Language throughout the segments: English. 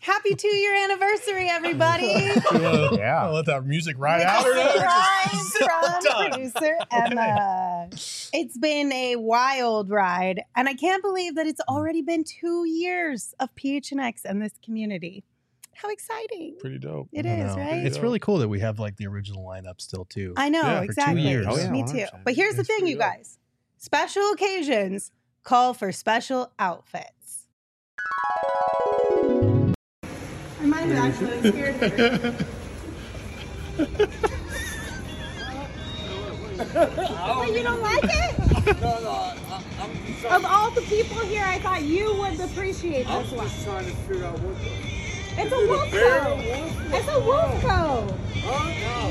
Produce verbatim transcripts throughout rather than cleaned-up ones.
Happy two-year anniversary, everybody. Yeah. I'll let that music ride With out. a Or not. surprise from producer Emma. It's been a wild ride, and I can't believe that it's already been two years of P H N X and this community. How exciting. Pretty dope. It I is, know. right? It's really cool that we have like the original lineup still too. I know, Yeah, for two exactly. years. Oh, yeah, Me one too. hundred percent. But here's the It's thing, pretty you dope. guys. Special occasions call for special outfits. Mine actually scared her. Oh, you don't like it? No, no, I, I'm just Of all the people here, I thought you would appreciate I'm this one. just trying to figure out what the... It's a wolf bear, coat. wolf? It's a wolf coat. Huh? No.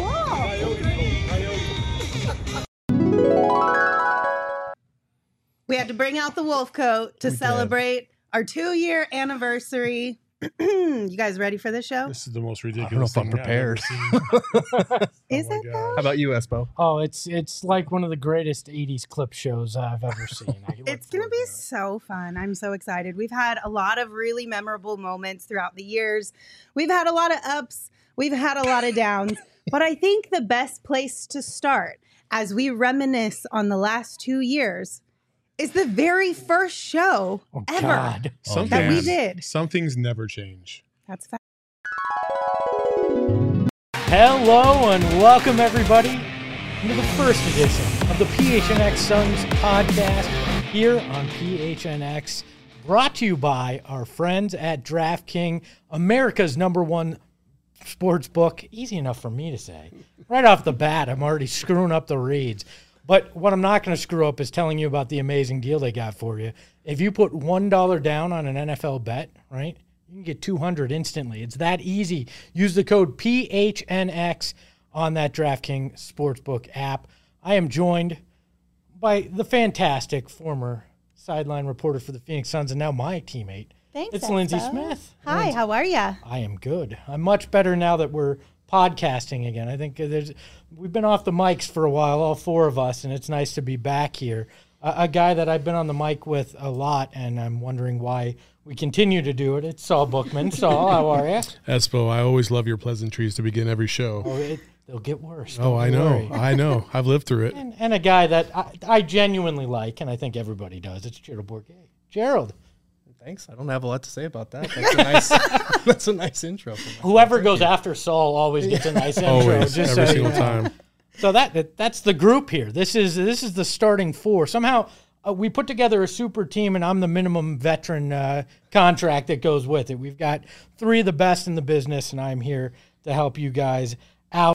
Whoa. Coyote coat, coyote. We had to bring out the wolf coat to We did. celebrate our two-year anniversary. You guys ready for this show? This is the most I don't know ridiculous if I'm thing I've ever prepared. seen. Is Oh my it God. though? How about you, Espo? Oh, it's it's like one of the greatest eighties clip shows I've ever seen. I look It's going to forward be it. so fun. I'm so excited. We've had a lot of really memorable moments throughout the years. We've had a lot of ups, we've had a lot of downs, but I think the best place to start as we reminisce on the last two years is the very first show Oh, ever God. Some that we things- did. Some things never change. That's fact. Hello and welcome everybody to the first edition of the P H N X Suns podcast here on P H N X, brought to you by our friends at DraftKings, America's number one sports book. Easy enough for me to say. Right off the bat, I'm already screwing up the reads. But what I'm not going to screw up is telling you about the amazing deal they got for you. If you put one dollar down on an N F L bet, right, you can get two hundred dollars instantly. It's that easy. Use the code P H N X on that DraftKings Sportsbook app. I am joined by the fantastic former sideline reporter for the Phoenix Suns and now my teammate. Thanks. It's Lindsay Espo. Smith. Hi, Lindsay. how are you? I am good. I'm much better now that we're podcasting again. I think there's we've been off the mics for a while, all four of us, and it's nice to be back here. A, a guy that I've been on the mic with a lot, and I'm wondering why we continue to do it. It's Saul Bookman. Saul, how are you? Espo, I always love your pleasantries to begin every show. Oh, it, they'll get worse. Oh, Don't I you know. worry. I know. I've lived through it. And, and a guy that I, I genuinely like, and I think everybody does. It's Gerald Bourget. Gerald, Thanks. I don't have a lot to say about that. That's a nice, that's a nice intro. For myself. whoever Thank goes you. after Saul always gets a nice intro. Always. just Every so single you know. time. So that, that that's the group here. This is this is the starting four. Somehow uh, we put together a super team, and I'm the minimum veteran uh, contract that goes with it. We've got three of the best in the business, and I'm here to help you guys out.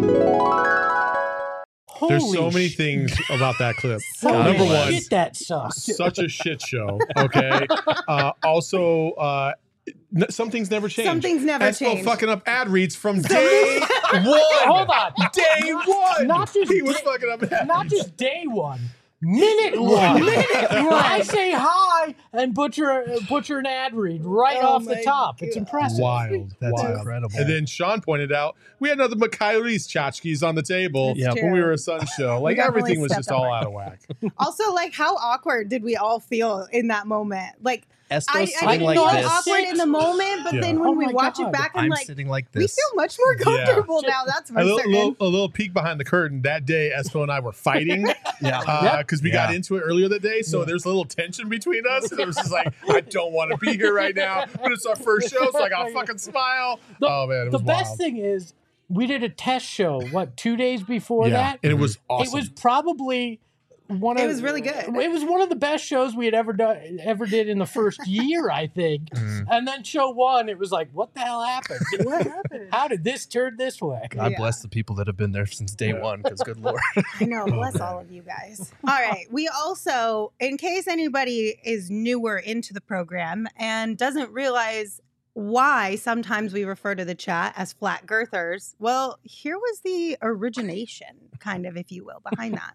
There's Holy so many sh- things about that clip. holy Number one, shit, that sucks. such a shit show. Okay. Uh, also, uh, n- some things never change. Some things never Espo change. fucking up ad reads from day one. Hold on. Day one. Not just he was day- fucking up ads. Not just day one. Minute one. Minute one. I say hi and butcher uh, butcher an ad read right Oh off the my top. It's impressive. Wild. That's wild. incredible. And then Sean pointed out we had nothing but Kylie's tchotchkes on the table It's when we true. were a Sun show. Like definitely everything was stepped just up all our out of whack. Also, like, how awkward did we all feel in that moment? Like, Espo's I, I sitting didn't like know this. awkward in the moment, but Yeah. then when Oh we my watch God. it back, I'm, I'm like, sitting like we this. feel much more comfortable now. That's for A little, certain. little, a little peek behind the curtain. That day, Espo and I were fighting Yeah. because we Yeah. got into it earlier that day. So there's a little tension between us. And it was just like, I don't want to be here right now, but it's our first show, so I got to fucking smile. The- oh, man, it The was best wild. thing is we did a test show, what, two days before yeah, that? and it was awesome. It was probably one of It was really good. It was one of the best shows we had ever done ever did in the first year, I think. And then show one, it was like, what the hell happened? What happened? How did this turn this way? God Yeah. bless the people that have been there since day Yeah. one, because good Lord. I know. Bless all of you guys. All right. We also, in case anybody is newer into the program and doesn't realize why sometimes we refer to the chat as flat girthers, well, here was the origination, kind of, if you will, behind that.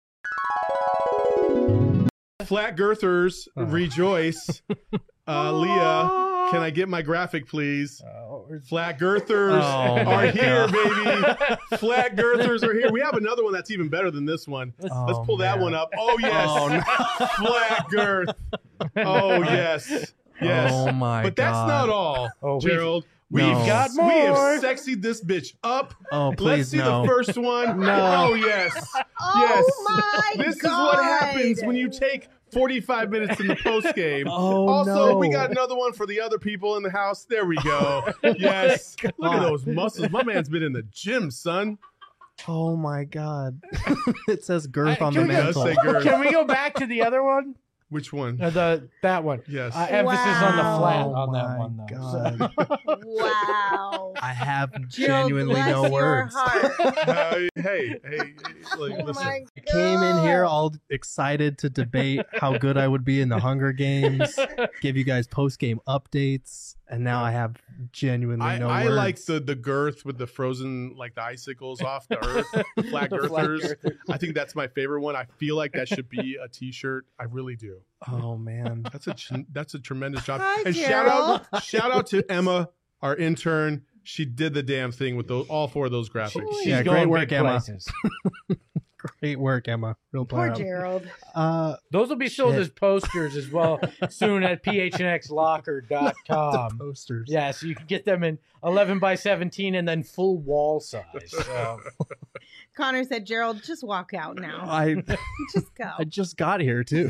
Flat girthers Oh. rejoice. Uh, Leah, can I get my graphic, please? Flat girthers Oh, are my here, God. baby. Flat girthers are here. We have another one that's even better than this one. Let's Oh, pull that man. one up. Oh, yes. Oh, no. Flat girth. Oh, yes. Yes. Oh my But that's God. not all, Oh, we've- Gerald. No. We've got We have more. sexied this bitch up. Oh, Let's please see no. the first one. No. Oh, yes. Oh yes. my This God. is what happens when you take forty-five minutes in the post game. Oh, also, no. we got another one for the other people in the house. There we go. Yes. Look at those muscles. My man's been in the gym, son. Oh my God. It says girth I- on can the we- It does mantle. say girth. Can we go back to the other one? Which one? Uh, the that one. Yes. Uh, emphasis on the Wow. flat Oh on that my one, though. God. Wow. I have Gerald, genuinely bless no your words. heart. Uh, hey, hey, hey, like, Oh listen. my I came in here God. all excited to debate how good I would be in the Hunger Games, give you guys post game updates, and now I have genuinely I, no I words. like the the girth with the frozen, like the icicles off the earth, the flat The flat girthers. girthers. I think that's my favorite one. I feel like that should be a T-shirt. I really do. Oh man. That's a ch- that's a tremendous job. Hi, and shout out shout out to Emma, our intern. She did the damn thing with those, all four of those graphics. She's Yeah, going great work, big Emma. places. Great work, Emma. Real Poor proud. Gerald. Uh, Those will be sold Shit. as posters as well soon at p h n x locker dot the com. posters. Yeah, so you can get them in eleven by seventeen and then full wall size. So. Connor said, Gerald, just walk out now. I Just go. I just got here too.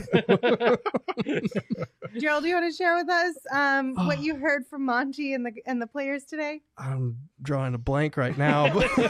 Gerald, do you want to share with us um, what you heard from Monty and the and the players today? I'm drawing a blank right now. But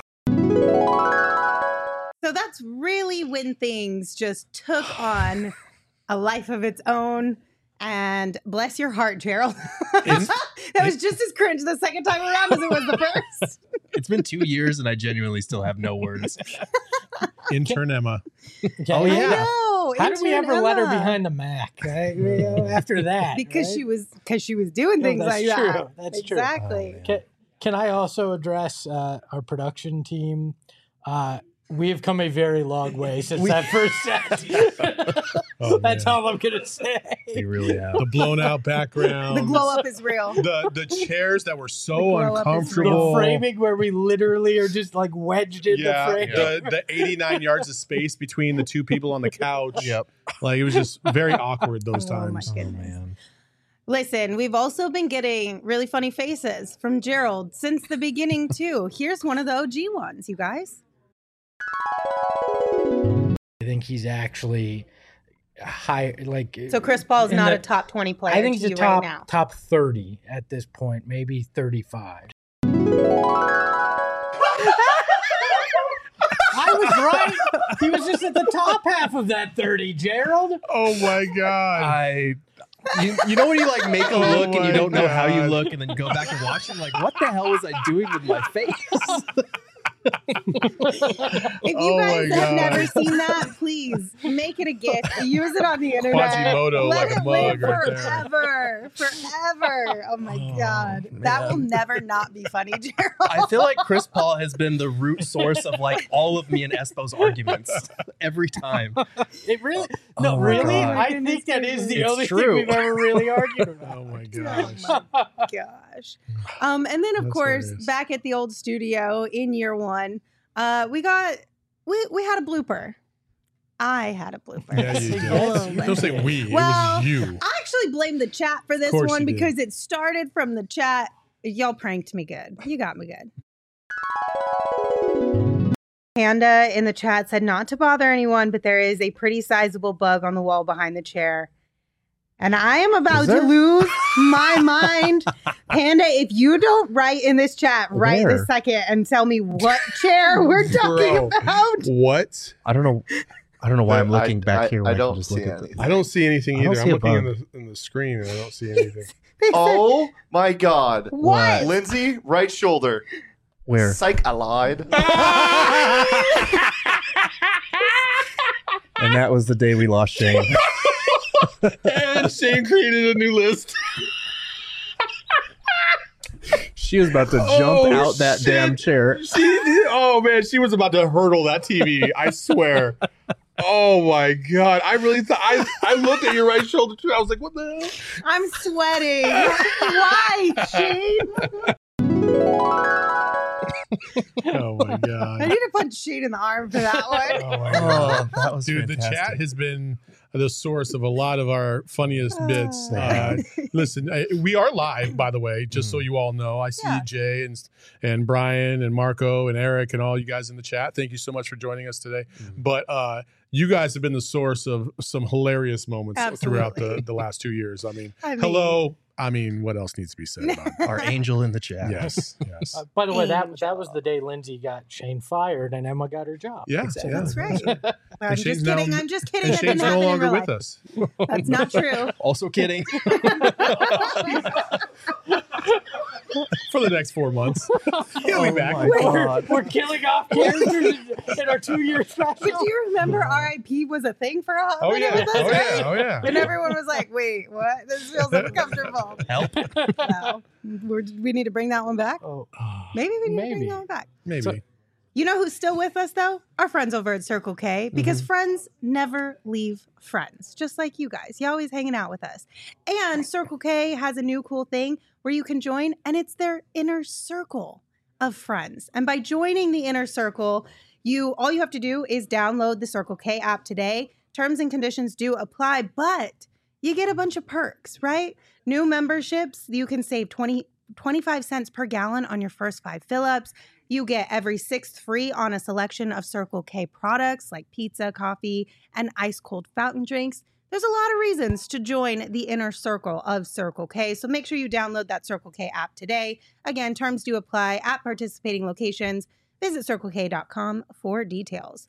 So that's really when things just took on a life of its own. And bless your heart, Gerald. that was just as cringe the second time around as it was the first. it's been two years and I genuinely still have no words. Intern Emma. Oh, I yeah. know. How did we intern ever let her Emma. behind the Mac right? You know, after that? Because right? she was because she was doing No, things that's like true. that. That's true. exactly. Can, can I also address uh, our production team? Uh, we have come a very long way since We- that first set. Oh, That's man. all I'm gonna say. You really have. The blown out background. The glow up is real. The the chairs that were The so glow up is uncomfortable. The framing where we literally are just like wedged in yeah, the frame. the the eighty-nine yards of space between the two people on the couch. Yep. Like it was just very awkward those Oh, my times. goodness. Listen, we've also been getting really funny faces from Gerald since the beginning, too. Here's one of the O G ones, you guys. I think he's actually high. Like So Chris Paul is in not the- a top twenty player I think to he's a you top right now. top thirty at this point, maybe thirty-five. I was right. He was just at the top half of that thirty, Gerald. Oh my god. I you, you know when you like make a Oh look and my you don't know how you God. look and then you go back and watch it like what the hell was I doing with my face? If you Oh guys my have God. never seen that, please make it a gift. Use it on the internet. Quasimodo Let like a it live mug right there. forever. Forever. Oh my Oh, God. That will man. never not be funny, Gerald. I feel like Chris Paul has been the root source of like all of me and Espo's arguments every time. It really, no, Oh my really. God. I think that is the It's only thing true. we've ever really argued about. Oh my gosh. Gosh. Um, and then of That's course, hilarious. back at the old studio in year one, uh, we got we we had a blooper. I had a blooper. Yeah, you did. Yes, you Don't say we. Well, it was you. I actually blame the chat for this course one you did. because it started from the chat. Y'all pranked me good. You got me good. Panda in the chat said not to bother anyone, but there is a pretty sizable bug on the wall behind the chair. And I am about Is to there? lose my mind. Panda, if you don't write in this chat right Where? this second and tell me what chair we're talking Bro. about. What? I don't know. I don't know why I'm I- looking back I- here. I When I, don't can just see look at anything. the, I don't see anything I don't either. see I'm a looking in bug. the in the screen and I don't see anything. They said, Oh my god. what? Lindsay, right shoulder. where? Psych allied. And that was the day we lost Shane. And Shane created a new list. She was about to jump Oh, out that shit. damn chair. She did. Oh man, she was about to hurdle that T V. I swear. Oh my god! I really thought I I looked at your right shoulder too. I was like, "What the hell?" I'm sweating. Why, Shane? Oh my I god! need to punch Shane in the arm for that one. Oh my Oh, god! that was Dude, the fantastic. chat has been the source of a lot of our funniest bits. Uh, listen, I, we are live, by the way, just so you all know. I see Yeah. Jay and and Brian and Marco and Eric and all you guys in the chat. Thank you so much for joining us today. But uh, you guys have been the source of some hilarious moments throughout Absolutely. the, the last two years. I mean, I mean- hello. I mean, what else needs to be said about it? Our angel in the chat. Yes, yes. Uh, by the way, that Angel. that was the day Lindsay got Shane fired and Emma got her job. Yeah, That's yeah. right. I'm Shane's just now- kidding. I'm just kidding. And That didn't Shane's no happen in longer real with life. us. That's not true. Also kidding. For the next four months. He'll be back. my God. We're killing off characters in our two-year special. But do you remember R I P was a thing for a hot Oh minute yeah. with us, Oh right? yeah. Oh yeah. And everyone was like, wait, what? This feels uncomfortable. Help. No. We're, we need to bring that one back. Oh, Maybe we need to Maybe. bring that one back. Maybe. So- You know who's still with us, though? Our friends over at Circle K, because friends never leave friends, just like you guys. You're always hanging out with us. And Circle K has a new cool thing where you can join, and it's their inner circle of friends. And by joining the inner circle, you all you have to do is download the Circle K app today. Terms and conditions do apply, but you get a bunch of perks, right? New memberships, you can save twenty, twenty-five cents per gallon on your first five fill-ups. You get every sixth free on a selection of Circle K products like pizza, coffee, and ice-cold fountain drinks. There's a lot of reasons to join the inner circle of Circle K, so make sure you download that Circle K app today. Again, terms do apply at participating locations. Visit circle k dot com for details.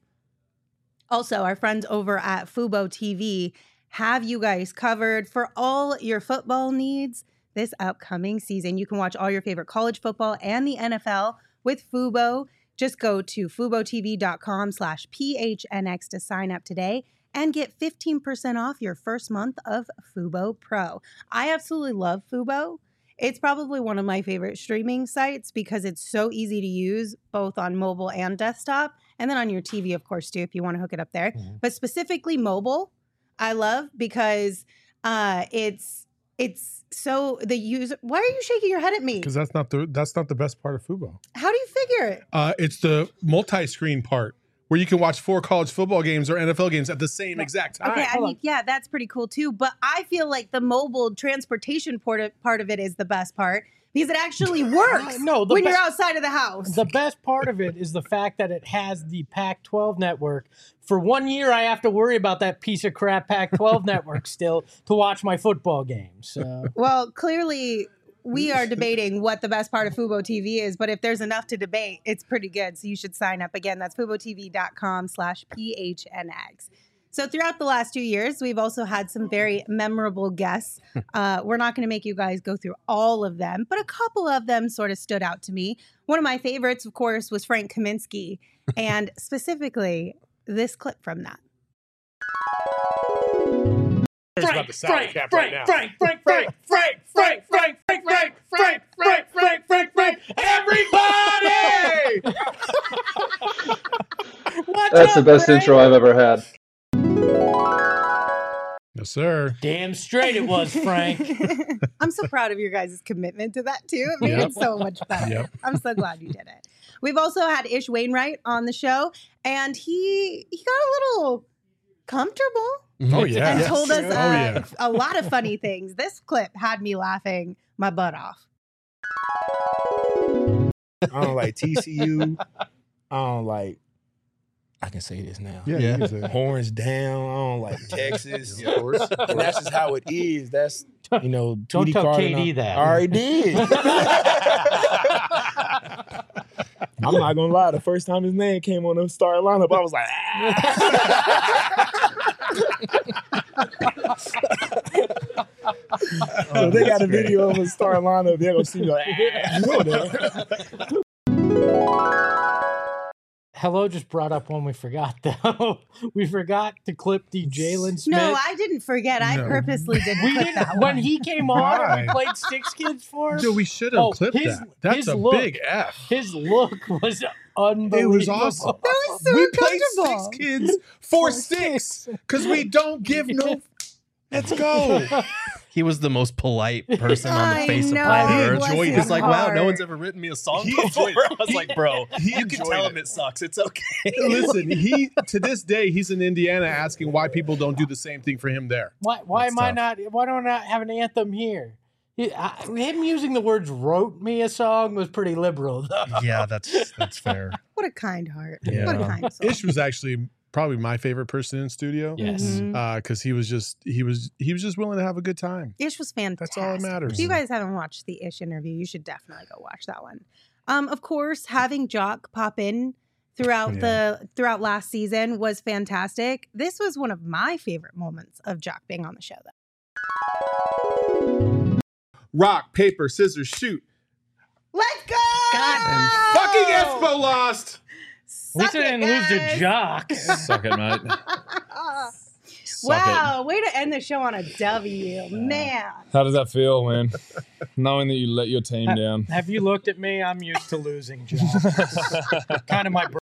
Also, our friends over at Fubo T V have you guys covered for all your football needs this upcoming season. You can watch all your favorite college football and the N F L with Fubo. Just go to FuboTV.com slash PHNX to sign up today and get fifteen percent off your first month of Fubo Pro. I absolutely love Fubo. It's probably one of my favorite streaming sites because it's so easy to use both on mobile and desktop, and then on your T V, of course, too, if you want to hook it up there. Mhm. But specifically mobile, I love because uh, it's it's so the user. Why are you shaking your head at me? Because that's not the that's not the best part of Fubo. How do you figure it? Uh, it's the multi-screen part where you can watch four college football games or N F L games at the same exact time. Okay, I hold mean, yeah, that's pretty cool too. But I feel like the mobile transportation part of, part of it is the best part because it actually works No, the when be- you're outside of the house. The best part of it is the fact that it has the Pac twelve network. For one year, I have to worry about that piece of crap Pac twelve network still to watch my football games. So. Well, clearly we are debating what the best part of Fubo T V is, but if there's enough to debate, it's pretty good. So you should sign up. Again, that's FuboTV.com slash PHNX. So throughout the last two years, we've also had some very memorable guests. Uh, we're not going to make you guys go through all of them, but a couple of them sort of stood out to me. One of my favorites, of course, was Frank Kaminsky, and specifically this clip from that. Frank, Frank, Frank, Frank, Frank, Frank, Frank, Frank, Frank, Frank, Frank, Frank, Frank, Frank, Frank, Frank, Frank, everybody! What's That's the up, best Frank? intro I've ever had. Yes, sir. Damn straight it was, Frank. I'm so proud of your guys' commitment to that too. It made Yep. it so much better. Yep. I'm so glad you did it. We've also had Ish Wainwright on the show, and he he got a little comfortable Oh yeah. and Yes. told us uh, Oh yeah. a lot of funny things. This clip had me laughing my butt off. I don't like T C U. I don't like. I can say this now. Yeah. Yeah. you can say it. Horns down. I don't like Texas. Of course. And that's just how it is. That's you know. Don't Tweety tell Carter K D and I- that. I already did. I'm not gonna lie. The first time his name came on the start lineup, I was like, ah. So they got a video of a start lineup. They're gonna see me like, ah. You know that. Hello just brought up one we forgot, though. We forgot to clip the Jalen Smith. No, I didn't forget. I No. purposely didn't we clip didn't, that when one. he came on and we Why? played Six Kids for him. Dude, we should have Oh, clipped his- that. That's his a look. big F. His look was unbelievable. It was awesome. That was so we play uncomfortable. six kids for six because we don't give no. Let's go. he was the most polite person on the I face know, of planet he Earth. enjoyed He it. was like, wow, Hard. no one's ever written me a song He before. enjoyed it. I was like, bro, He you can enjoyed tell it. him it sucks. It's okay. Listen, he to this day he's in Indiana asking why people don't do the same thing for him there. Why? Why That's am I tough. not? Why don't I have an anthem here? He, I, him using the words "wrote me a song" was pretty liberal, though. Yeah, that's that's fair. What a kind heart. Yeah. What a kind soul. Ish was actually probably my favorite person in studio. Yes. Mhm. because he was just he was he was just willing to have a good time. Ish was fantastic. That's all that matters. If you guys haven't watched the Ish interview, you should definitely go watch that one. Um, of course, having Jock pop in throughout Yeah. the throughout last season was fantastic. This was one of my favorite moments of Jock being on the show, though. Rock, paper, scissors, shoot. Let's go! And fucking Espo lost. At least I didn't lose to Jock. Suck it, mate. Suck Wow, way to end the show on a W, man. it. How does that feel, man? Knowing that you let your team down. Have you looked at me? I'm used to losing, Jock. Kind of my. Br-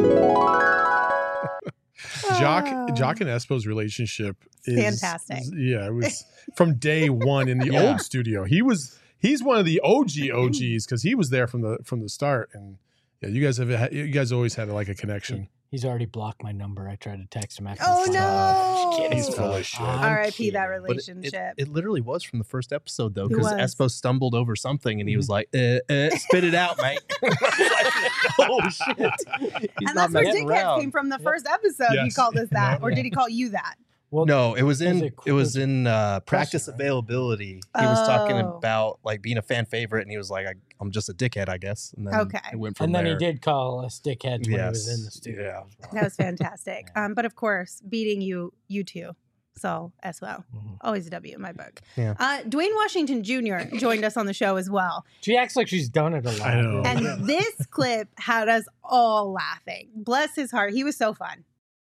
Jock Oh. Jock and Espo's relationship is Fantastic. Yeah, it was from day one in the Yeah. old studio. He was he's one of the O G O Gs because he was there from the from the start. And yeah, you guys have had, you guys always had like a connection. He's already blocked my number. I tried to text him after. Oh, the no. show. Just kidding. He's full of shit. I'm R I P that kidding. But it, relationship. it, it literally was from the first episode, though, It because was. Espo stumbled over something and he was like, uh, uh, spit it out, mate. I was like, oh, shit. He's and not that's where messing Dickheads around. came from the first episode. He Yes. called us that. Yeah. Or did he call you that? Well, No, it was in Was it, it- was in uh, practice right? availability. He was talking Oh. about like being a fan favorite, and he was like, I, "I'm just a dickhead, I guess." And then Okay. it went from and then there. he did call us dickheads when he was Yes. in the studio. Yeah. as well. That was fantastic. Um, but of course, beating you, you two. So as well. Mhm. Always a W in my book. Yeah. Uh, Dwayne Washington Junior joined us on the show as well. She acts like she's done it a lot. I know. And this clip had us all laughing. Bless his heart. He was so fun.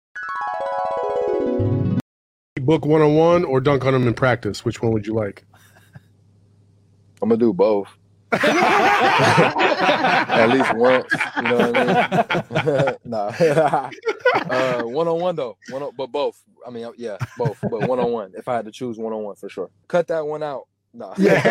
Book one on one or dunk on them in practice. Which one would you like? I'm gonna do both. At least once, you know what I mean? nah. uh, one on one though, one on, but both. I mean, yeah, both, but one on one. If I had to choose one on one for sure. Cut that one out. Nah.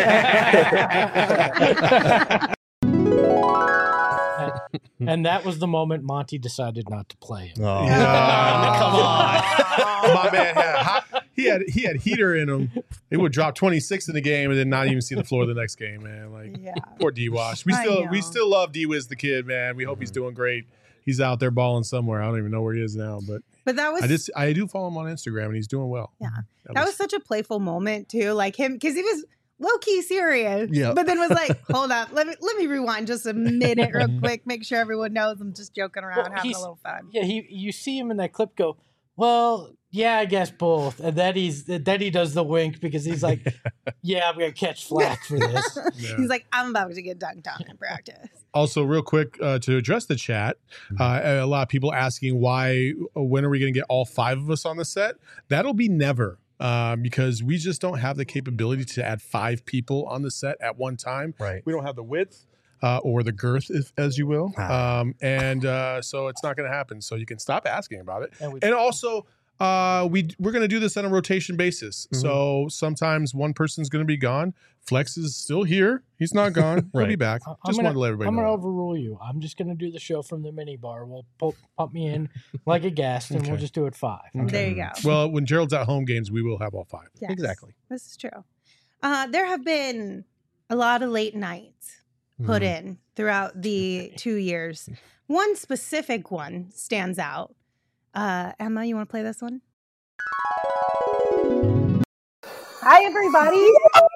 And that was the moment Monty decided not to play him. Oh, Yeah. come on. My man had hot, he had he had heater in him. It would drop twenty-six in the game and then not even see the floor the next game, man. Like Yeah. poor D Wash. We I still know. we still love D Wiz the kid, man. We hope he's doing great. He's out there balling somewhere. I don't even know where he is now, but But that was I just I do follow him on Instagram and he's doing well. Yeah. that was such a playful moment too. Like him because he was low key serious. Yeah. But then was like, hold up, let me let me rewind just a minute real quick, make sure everyone knows I'm just joking around, Well, having a he's- little fun. Yeah, he you see him in that clip go, well, yeah, I guess both. And then he's then he does the wink because he's like, yeah, I'm gonna catch flack for this. Yeah. He's like, I'm about to get dunked on in practice. Also, real quick uh, to address the chat, uh, a lot of people asking why, uh, when are we going to get all five of us on the set? That'll be never, uh, because we just don't have the capability to add five people on the set at one time. Right. We don't have the width uh, or the girth, if, as you will, Ah. um, and uh, so it's not going to happen. So you can stop asking about it. And we- And also, uh, we we're going to do this on a rotation basis. Mhm. So sometimes one person's going to be gone. Flex is still here. He's not gone. He'll be Right. back. I- I'm Just gonna, wanted to let everybody I'm know. gonna that. overrule you. I'm just gonna do the show from the mini bar. We'll pump, pump me in like a guest, and we'll Okay. just do it five. Okay. There you go. Well, when Gerald's at home games, we will have all five. Yes, Exactly. This is true. Uh, there have been a lot of late nights put Mhm. in throughout the two years. One specific one stands out. Uh, Emma, you want to play this one? Hi, everybody.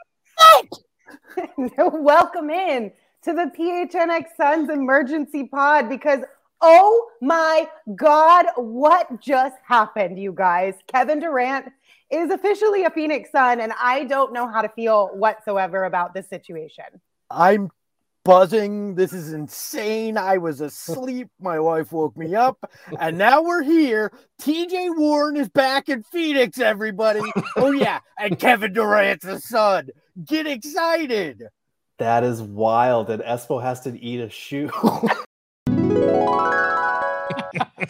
Welcome in to the P H N X Suns Emergency Pod because, oh my God, what just happened, you guys? Kevin Durant is officially a Phoenix Sun, and I don't know how to feel whatsoever about this situation. I'm buzzing. This is insane. I was asleep. My wife woke me up, and now we're here. T J Warren is back in Phoenix, everybody. Oh, yeah. And Kevin Durant's a son. Get excited. That is wild. And Espo has to eat a shoe.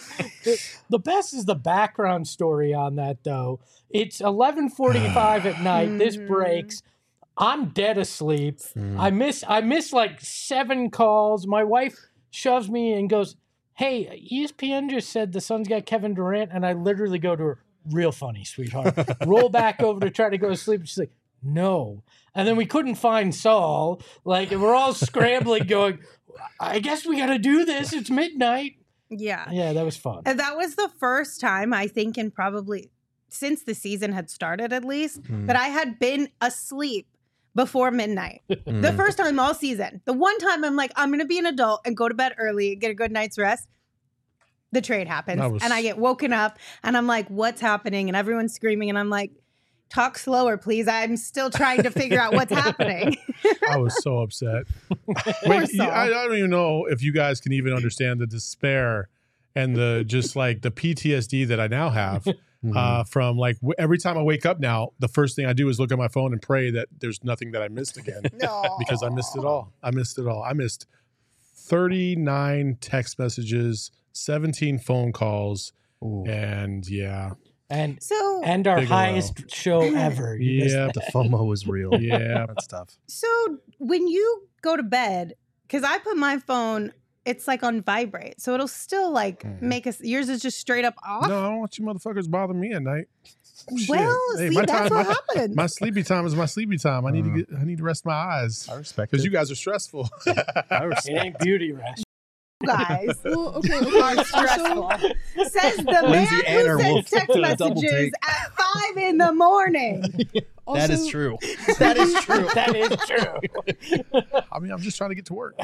The best is the background story on that, though. It's eleven forty-five at night. This breaks. I'm dead asleep. Mm. I miss I miss like seven calls. My wife shoves me and goes, "Hey, E S P N just said the Suns got Kevin Durant," and I literally go to her, "Real funny, sweetheart." Roll back over to try to go to sleep. She's like, "No." And then we couldn't find Saul. Like, we're all scrambling, going, "I guess we got to do this. It's midnight." Yeah. Yeah, that was fun. And that was the first time, I think, in probably since the season had started at least, Mm. that I had been asleep before midnight. The Mm. first time all season. The one time I'm like, I'm going to be an adult and go to bed early and get a good night's rest. The trade happens. That was- And I get woken up and I'm like, what's happening? And everyone's screaming. And I'm like, talk slower, please. I'm still trying to figure out what's happening. I was so upset. Poor Wait, you- Saul. I, I don't even know if you guys can even understand the despair and the just like the P T S D that I now have uh, from like w- every time I wake up now, the first thing I do is look at my phone and pray that there's nothing that I missed again because I missed it all. I missed it all. I missed thirty-nine text messages, seventeen phone calls, and yeah. And so and our Big O L. highest show ever. You missed Yeah, that. The FOMO was real. Yeah. That's tough. So when you go to bed, because I put my phone, it's like on vibrate. So it'll still like make us, yours is just straight up off. No, I don't want you motherfuckers bother me at night. Shit. Well, Hey, see, my that's time- what my- happened. My sleepy time is my sleepy time. I need to get. I need to rest my eyes. I respect because it. you guys are stressful. I It respect ain't beauty rest. Guys. Well, okay, Are okay. stressful. Also, Says the man Lindsay and her who wolf sends text did a double messages take. at five in the morning. also, That is true. That is true. That is true. I mean, I'm just trying to get to work.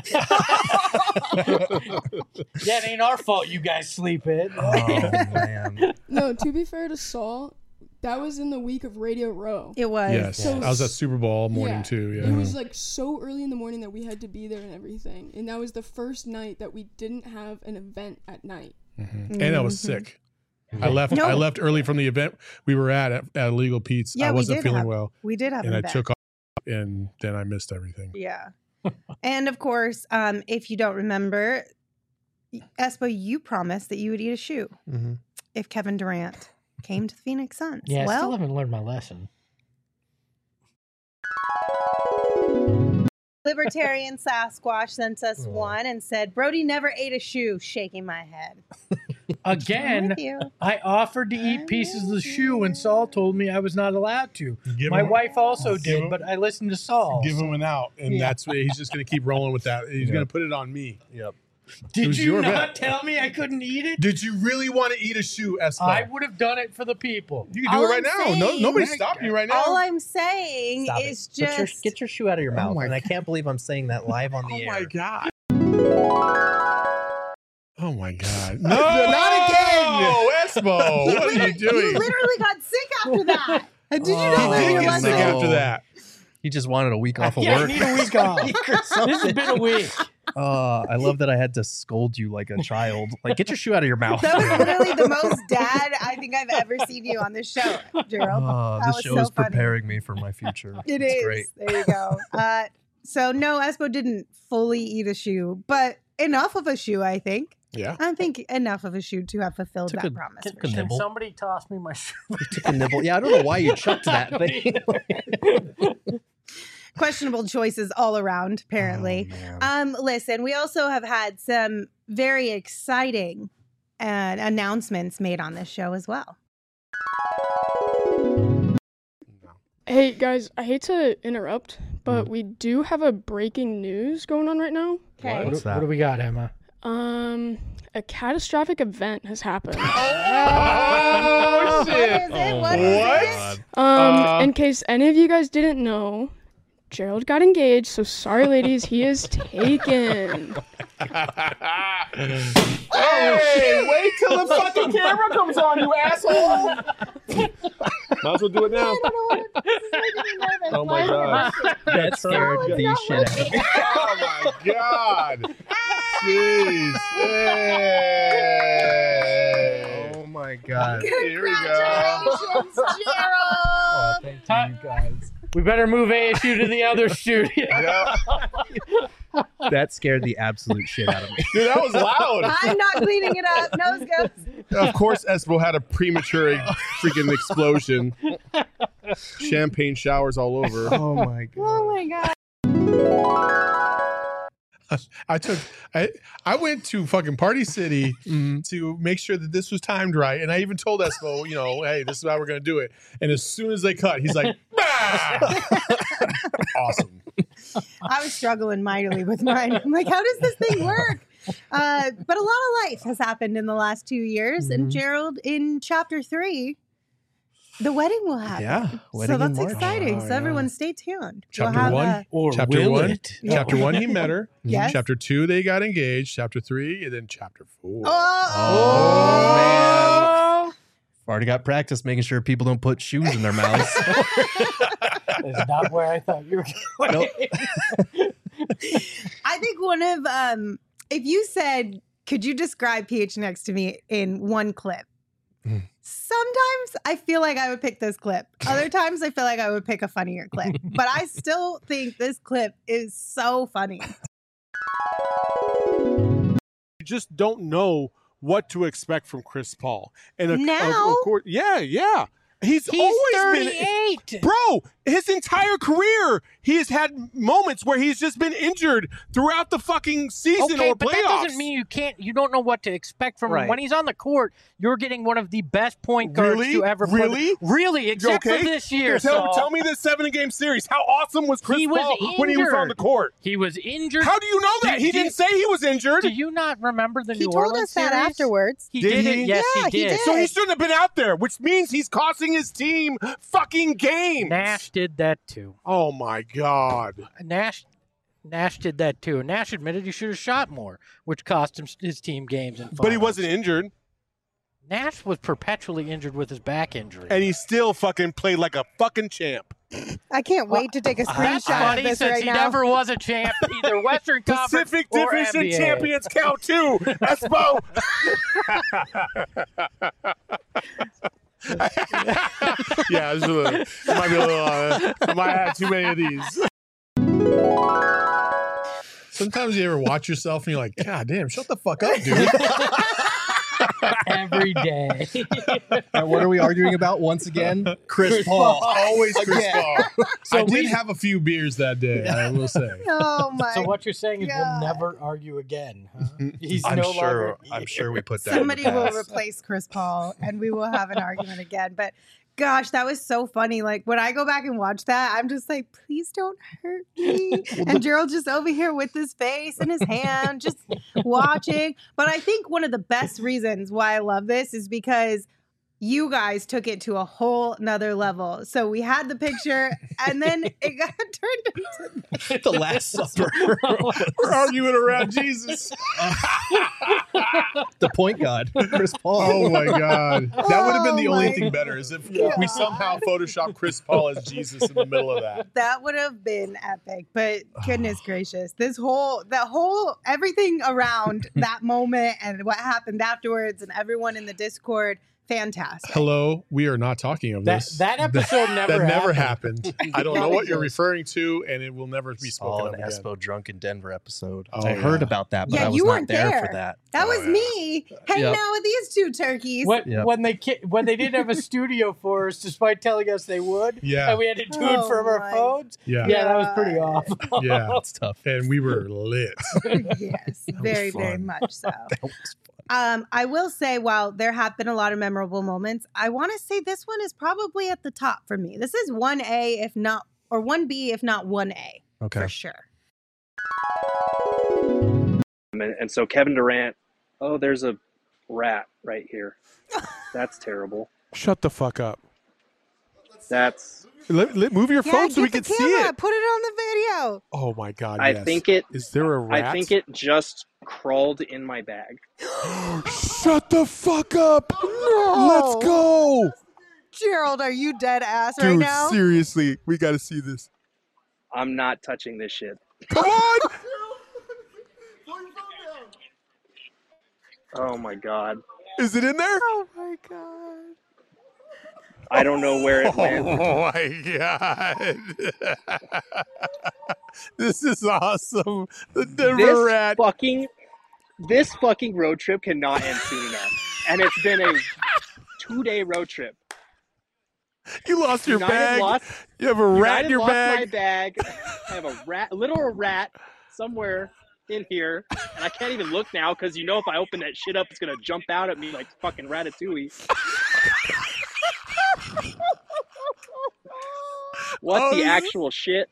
Yeah, it ain't our fault you guys sleep in. Oh man. No, to be fair to Saul, that was in the week of Radio Row. It was. Yes, So- I was at Super Bowl all morning Yeah. too. Yeah, It was like so early in the morning that we had to be there and everything. And that was the first night that we didn't have an event at night. and I was Mhm. sick. I left. No. I left early from the event we were at at, at Illegal Pete's. Yeah, I we wasn't did feeling have- well, We did have and an I event. took off, and then I missed everything. Yeah. And of course, um, if you don't remember, Espo, you promised that you would eat a shoe Mm-hmm. if Kevin Durant came to the Phoenix Suns. Yeah, I well, still haven't learned my lesson. Libertarian Sasquatch sent Oh. us one and said, Brody never ate a shoe, shaking my head. I'm Again, with you. I offered to eat pieces of the shoe, and Saul told me I was not allowed to. Give My him- wife also give did, him- but I listened to Saul. Give him an out, and Yeah. that's what he's just going to keep rolling with that. He's Yeah. going to put it on me. Yep. It Did was you your not bet. tell me I couldn't eat it? Did you really want to eat a shoe, Espo? I would have done it for the people. You can do All it right I'm now. No, saying- nobody's stopping you right now. All I'm saying Stop is it. Put your- just get your shoe out of your Oh mouth. my and I can't believe I'm saying that live on the oh air. my god. Oh my god. No, Not again. Espo, You what are you literally- doing? You literally got sick after that. And did you not Oh, learn He your did get lesson? sick after that. He just wanted a week off of Yeah, I work. need a week off. This has been a week. Uh, I love that I had to scold you like a child. Like, get your shoe out of your mouth. That was literally the most dad I think I've ever seen you on this show, Gerald. Oh, That this was show so is funny. preparing me for my future. It it's is. great. There you go. Uh, so no, Espo didn't fully eat a shoe, but enough of a shoe, I think. Yeah. I think enough of a shoe to have fulfilled Took that a- promise. took for a sure. nibble. Somebody toss me my shoe. You took a nibble. Yeah, I don't know why you chucked that thing. Questionable choices all around, apparently. Oh, um, listen, we also have had some very exciting uh, announcements made on this show as well. Hey guys, I hate to interrupt, but we do have a breaking news going on right now. Okay. What's What that? do we got, Emma? Um, a catastrophic event has happened. Oh, What shit. is it? What is it? Um, Uh. in case any of you guys didn't know, Gerald got engaged, so sorry ladies, he is taken. Hey, wait till the fucking camera comes on, you asshole! Might as well do it now. Oh my god. That scared the shit out of me. Oh my god. Jeez. Hey. Oh my god. Here we go. Congratulations, Oh, Gerald. thank you guys. We better move A S U to the other studio. Yeah. That scared the absolute shit out of me. Dude, that was loud. I'm not cleaning it up. Nose goes. Of course, Espo had a premature freaking explosion. Champagne showers all over. Oh my god. Oh my god. I took I I went to fucking Party City Mm-hmm. to make sure that this was timed right, and I even told Espo, you know, hey, this is how we're gonna do it. And as soon as they cut, he's like, bah! Awesome. I was struggling mightily with mine. I'm like, how does this thing work? Uh, but a lot of life has happened in the last two years, and Gerald, in chapter three, the wedding will happen. Yeah, so wedding in that's March. exciting. Oh, so yeah. everyone, stay tuned. Chapter We'll have one, a- Or chapter will one, it? chapter one, he met her. Yes. Chapter two, they got engaged. Chapter three, and then chapter four. Oh, man. I've already got practice making sure people don't put shoes in their mouths. That's not where I thought you were going. Nope. I think one of um, if you said, could you describe P H N X to me in one clip? Sometimes I feel like I would pick this clip. Other times I feel like I would pick a funnier clip. But I still think this clip is so funny. You just don't know what to expect from Chris Paul. And of, Now? of, of course, yeah, yeah. He's, He's always thirty-eight. been, bro. His entire career, he has had moments where he's just been injured throughout the fucking season Okay, or but playoffs. that doesn't mean you can't. You don't know what to expect from him. Right. When he's on the court, you're getting one of the best point guards Really? to ever play. Really? Really, except Okay. for this year. Tell, Saul. tell me this seven-game series. How awesome was Chris He was Paul when he was on injured. the court? He was injured. How do you know that? Did- he did- didn't say he was injured. Do you not remember the He New told Orleans us that series? afterwards. He Did did, he? it. Yes, Yeah, he he did. did. So he shouldn't have been out there, which means he's costing his team fucking games. Nash did that too. Oh my God. Nash Nash did that too. Nash admitted he should have shot more, which cost him his team games. In But he finals. wasn't injured, Nash was perpetually injured with his back injury. and he still fucking played like a fucking champ. I can't wait to take a That's screenshot funny of this since right he now. never was a champ, either Western Conference Pacific or Division N B A. champions count too. Espo. Yeah, it's a little, it might be a little. Uh, I might have too many of these. Sometimes you ever watch yourself and you're like, God damn, shut the fuck up, dude. Every day. And what are we arguing about once again? Chris, Paul. Always Chris Again. Paul. So I we- did have a few beers that day, I will say. Oh my So what you're saying is God. we'll never argue again. Huh? He's I'm no sure. longer. I'm sure we put that. Somebody in the will past. replace Chris Paul and we will have an argument again. But gosh, that was so funny. Like when I go back and watch that, I'm just like, please don't hurt me. And Gerald's just over here with his face in his hand, just watching. But I think one of the best reasons why I love this is because you guys took it to a whole nother level. So we had the picture and then it got turned into The Last Supper. We're arguing around Jesus. The point guard, Chris Paul. Oh my God. That would have been the Oh only my thing better is if God. we somehow photoshopped Chris Paul as Jesus in the middle of that. That would have been epic, but goodness gracious, this whole, that whole, everything around that moment and what happened afterwards and everyone in the Discord, fantastic. Hello, we are not talking of That, this. that episode never that never happened. happened. I don't know what you're referring to, and it will never be Saw spoken an of again. Espo drunk in Denver episode. Oh, I heard yeah. about that, but Yeah, I was you not weren't there, there. for that. That Oh, was yeah. me hanging Yep. out with these two turkeys. When, Yep. when they ki- when they didn't have a studio for us, despite telling us they would, Yeah. and we had to do Oh it from our my phones. Yeah. Yeah, that was pretty awful. Yeah. That's tough. And we were lit. Yes, very, very fun. much so. That was fun. Um, I will say, while there have been a lot of memorable moments, I want to say this one is probably at the top for me. This is one A, if not, or one B, if not one A, Okay. for sure. And, and so Kevin Durant, oh, there's a rat right here. That's terrible. Shut the fuck up. That's. Let, let- move your Yeah, phone so we get can the see camera, it. Put it on the video. Oh my God. I yes. think it. Is there a rat? I think it just crawled in my bag. Shut the fuck up. No. Let's go. Gerald, are you dead ass right Dude, now? seriously. We got to see this. I'm not touching this shit. Come on. Oh my god. Is it in there? Oh my God. I don't know where it Oh went. my God. This is awesome. The Denver This rat. fucking. This fucking road trip cannot end soon enough. and it's been a two-day road trip. You lost your United bag. Lost, You have a rat United in your lost bag. my bag. I have a rat, a literal rat somewhere in here, and I can't even look now because you know if I open that shit up, it's gonna jump out at me like fucking Ratatouille. What Oh, the this- actual shit?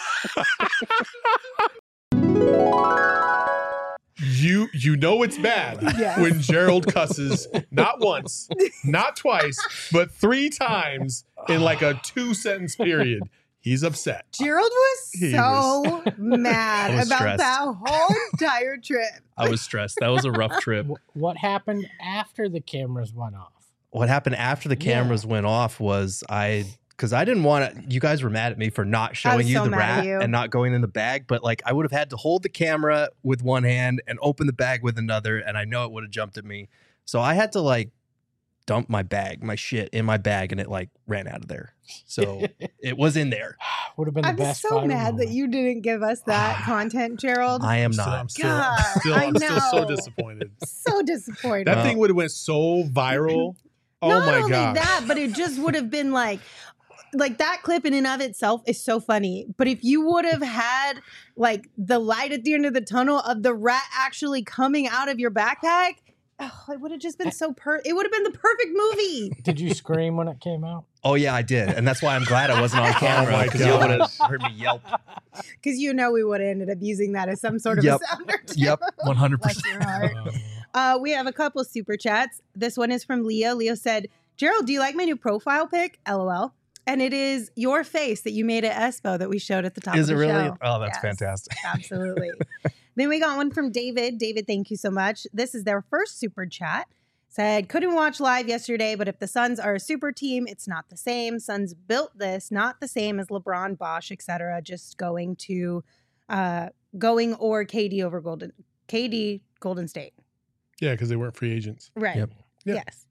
You you know it's bad Yes. when Gerald cusses not once, not twice, but three times in like a two sentence period. He's upset. Gerald was He so mad I was about stressed. that whole entire trip. I was stressed. That was a rough trip. Wh- What happened after the cameras went off? What happened after the cameras went off was I, because I didn't want to, you guys were mad at me for not showing you so the mad at rat you. and not going in the bag, but like I would have had to hold the camera with one hand and open the bag with another, and I know it would have jumped at me. So I had to like dump my bag, my shit in my bag, and it like ran out of there. So it was in there. Would have been the I'm best. so viral mad moment. that you didn't give us that content, Gerald. I am Still, I'm not. still, God, I'm still, I I'm still so know. disappointed. So disappointed. That Uh, thing would have went so viral. Oh Not my only god! that, but it just would have been like, like that clip in and of itself is so funny. But if you would have had like the light at the end of the tunnel of the rat actually coming out of your backpack, oh, it would have just been so per. It would have been the perfect movie. Did you scream when it came out? Oh yeah, I did, and that's why I'm glad I wasn't on camera my because you God. would have heard me yelp. Because you know we would have ended up using that as some sort of Yep. a sounder. too. Yep, one hundred Bless percent. your heart. Uh, we have a couple super chats. This one is from Leo. Leo said, Gerald, do you like my new profile pic? LOL. And it is your face that you made at Espo that we showed at the top Is of it the really? show. Oh, that's Yes, fantastic. Absolutely. Then we got one from David. David, thank you so much. This is their first super chat. Said, couldn't watch live yesterday, but if the Suns are a super team, it's not the same. Suns built this, not the same as LeBron, Bosch, et cetera. Just going to, uh, going or K D over Golden, K D Golden State. Yeah, because they weren't free agents. Right. Yep. Yep. Yes.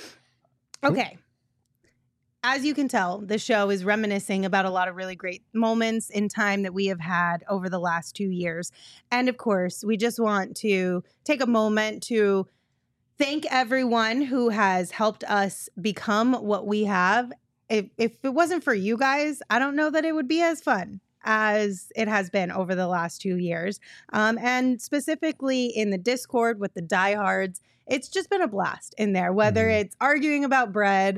Okay. As you can tell, the show is reminiscing about a lot of really great moments in time that we have had over the last two years. And of course, we just want to take a moment to thank everyone who has helped us become what we have. If, if it wasn't for you guys, I don't know that it would be as fun as it has been over the last two years. Um, and specifically in the Discord with the diehards, it's just been a blast in there, whether Mhm. it's arguing about bread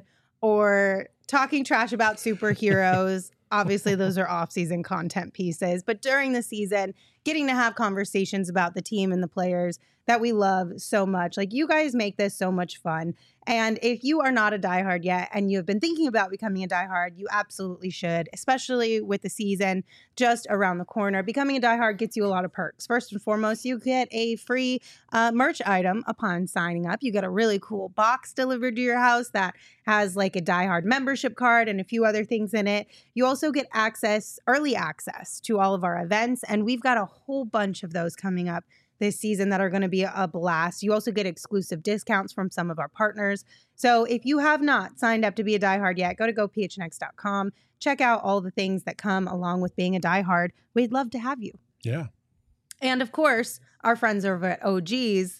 or talking trash about superheroes. Obviously, those are off-season content pieces. But during the season, getting to have conversations about the team and the players that we love so much. Like, you guys make this so much fun. And if you are not a diehard yet and you have been thinking about becoming a diehard, you absolutely should, especially with the season just around the corner. Becoming a diehard gets you a lot of perks. First and foremost, you get a free uh, merch item upon signing up. You get a really cool box delivered to your house that has like a diehard membership card and a few other things in it. You also get access, early access to all of our events. And we've got a whole bunch of those coming up this season that are going to be a blast. You also get exclusive discounts from some of our partners. So if you have not signed up to be a diehard yet, go to go p h n x dot com. Check out all the things that come along with being a diehard. We'd love to have you. Yeah. And of course, our friends over at O G's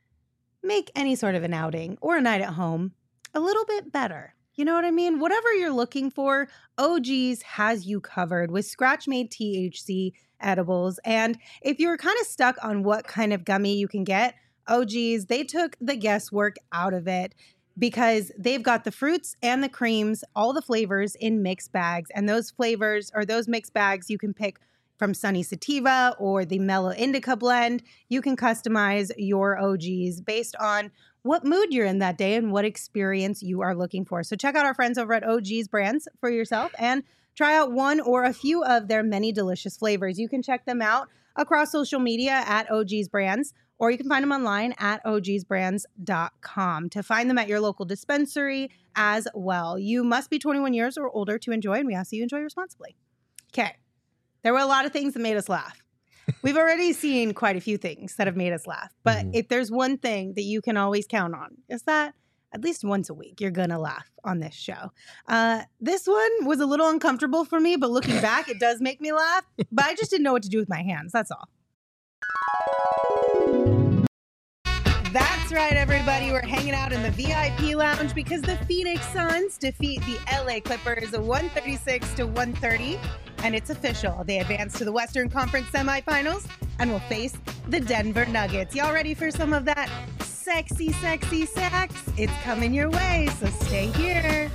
make any sort of an outing or a night at home a little bit better. You know what I mean? Whatever you're looking for, O G's has you covered with scratch-made T H C edibles. And if you're kind of stuck on what kind of gummy you can get, O G's, they took the guesswork out of it because they've got the fruits and the creams, all the flavors in mixed bags. And those flavors or those mixed bags you can pick from Sunny Sativa or the Mellow Indica blend. You can customize your O G's based on what mood you're in that day and what experience you are looking for. So check out our friends over at O G's Brands for yourself and try out one or a few of their many delicious flavors. You can check them out across social media at O G's Brands, or you can find them online at o g s brands dot com to find them at your local dispensary as well. You must be twenty-one years or older to enjoy, and we ask that you enjoy responsibly. Okay. There were a lot of things that made us laugh. We've already seen quite a few things that have made us laugh. But Mhm. if there's one thing that you can always count on, is that at least once a week, you're going to laugh on this show. Uh, this one was a little uncomfortable for me, but looking back, it does make me laugh. But I just didn't know what to do with my hands. That's all. That's right, everybody. We're hanging out in the V I P lounge because the Phoenix Suns defeat the L A Clippers one thirty-six to one thirty. And it's official. They advance to the Western Conference semifinals and will face the Denver Nuggets. Y'all ready for some of that sexy, sexy sex? It's coming your way, so stay here.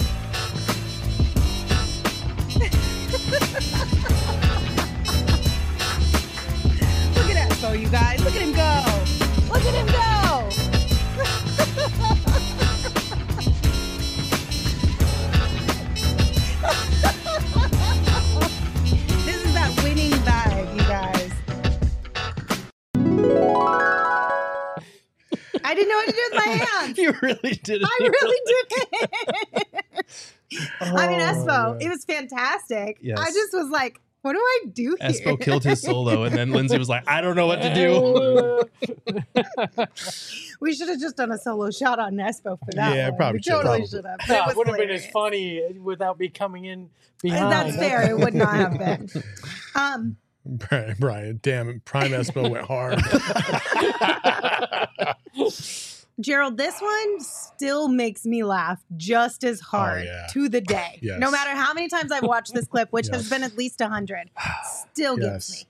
Look at Espo, you guys. Look at him go. Look at him go. This is that winning vibe, you guys. I didn't know what to do with my hands. You really did it. I really did it. I mean, Espo, it was fantastic. Yes. I just was like, what do I do here? Espo killed his solo, and then Lindsay was like, I don't know what to do. We should have just done a solo shot on Espo for that. Yeah, one. probably we should. totally Probably. should have. No, It it was would have been as hilarious. funny without me coming in behind. That's fair. It would not have been. Um, Brian, Brian, damn it. Prime Espo went hard. Gerald, this one still makes me laugh just as hard Oh, yeah. to the day. Yes. No matter how many times I've watched this clip, which has Yes. been at least a hundred, still gets Yes. me.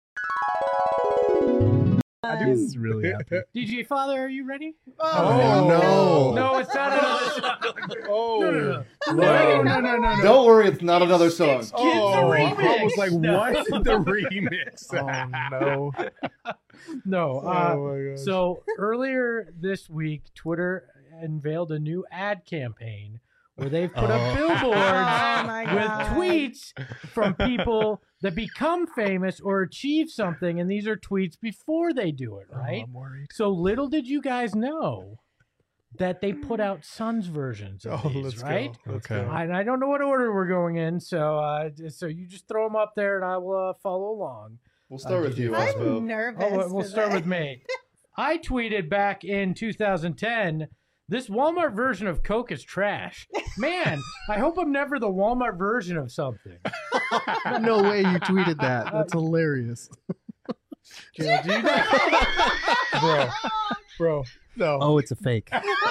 This is really happy. D J Father, are you ready? Oh, no. No, it's not another. Oh, No, no, no. No. No, no, no, no, no. Don't worry, it's not another song. Oh, I remix. was like, No. what? The remix. Oh, no. No. Uh, Oh, my gosh. so earlier this week, Twitter unveiled a new ad campaign where they've put Oh. up billboards Oh, my with God. tweets from people that become famous or achieve something, and these are tweets before they do it, right? I'm worried. So little did you guys know that they put out Suns versions of Oh, these, let's right? go. Let's Okay. go. I, I don't know what order we're going in, so uh, so you just throw them up there, and I will uh, follow along. We'll start with you, I'm Espo. nervous. Oh, we'll we'll for start this. with me. I tweeted back in two thousand ten, this Walmart version of Coke is trash. Man, I hope I'm never the Walmart version of something. No way you tweeted that. That's hilarious. Jill, do you know? Bro, bro, no. Oh, it's a fake.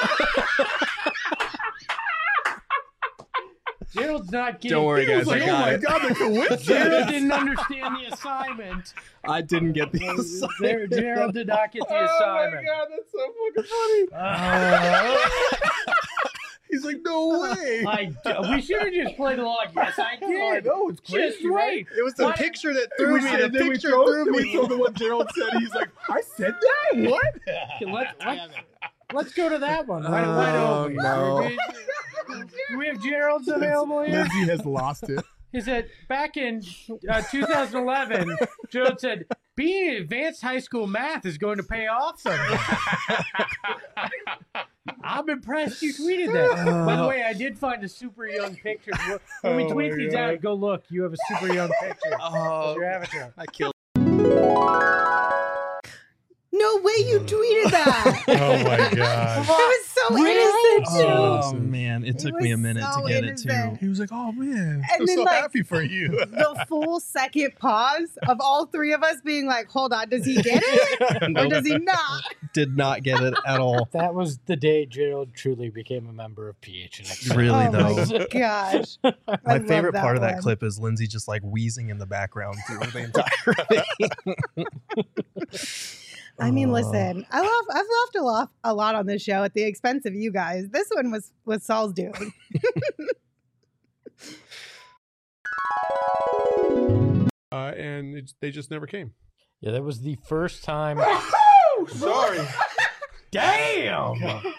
Gerald's not getting. Don't worry, He was guys. I like, oh got my it. God, the coincidence. Gerald didn't understand the assignment. I didn't get the Ger- assignment. Gerald did not get the Oh my assignment. God, that's so fucking funny. Uh, He's like, no way. I d- we should have just played along. Yes, I did. I know, it's crazy, Just wait. It was the What? picture that And threw we me. said- The then we picture told- threw then we me. told him what Gerald said. He's like, I said that? What? Okay, let's, let's, let's go to that one. Wide, wide Oh, open. no. Do we have Gerald's available here? Lindsay has lost it. He said back in uh, two thousand eleven, Gerald said, being in advanced high school math is going to pay off someday. I'm impressed you tweeted that. By the way, I did find a super young picture. When we Oh tweet my these God. out, go look. You have a super young picture of Oh, your avatar. I killed. No way you tweeted that. Oh my God. It was so innocent, too. Oh man, it took It me a was minute so to get innocent. it too. He was like, oh man, And I'm then, so like- happy for you. The full second pause of all three of us being like, hold on, does he get it? Or Nope. does he not? Did not get it at all. That was the day Gerald truly became a member of P H N X. Really Oh though. my gosh. I My love favorite part of that one. clip is Lindsay just like wheezing in the background through the entire thing. I mean, Oh. listen, I love I've laughed a lot a lot on this show at the expense of you guys. This one was was Saul's doing. Uh, and it, they just never came. Yeah, that was the first time. Sorry. Damn!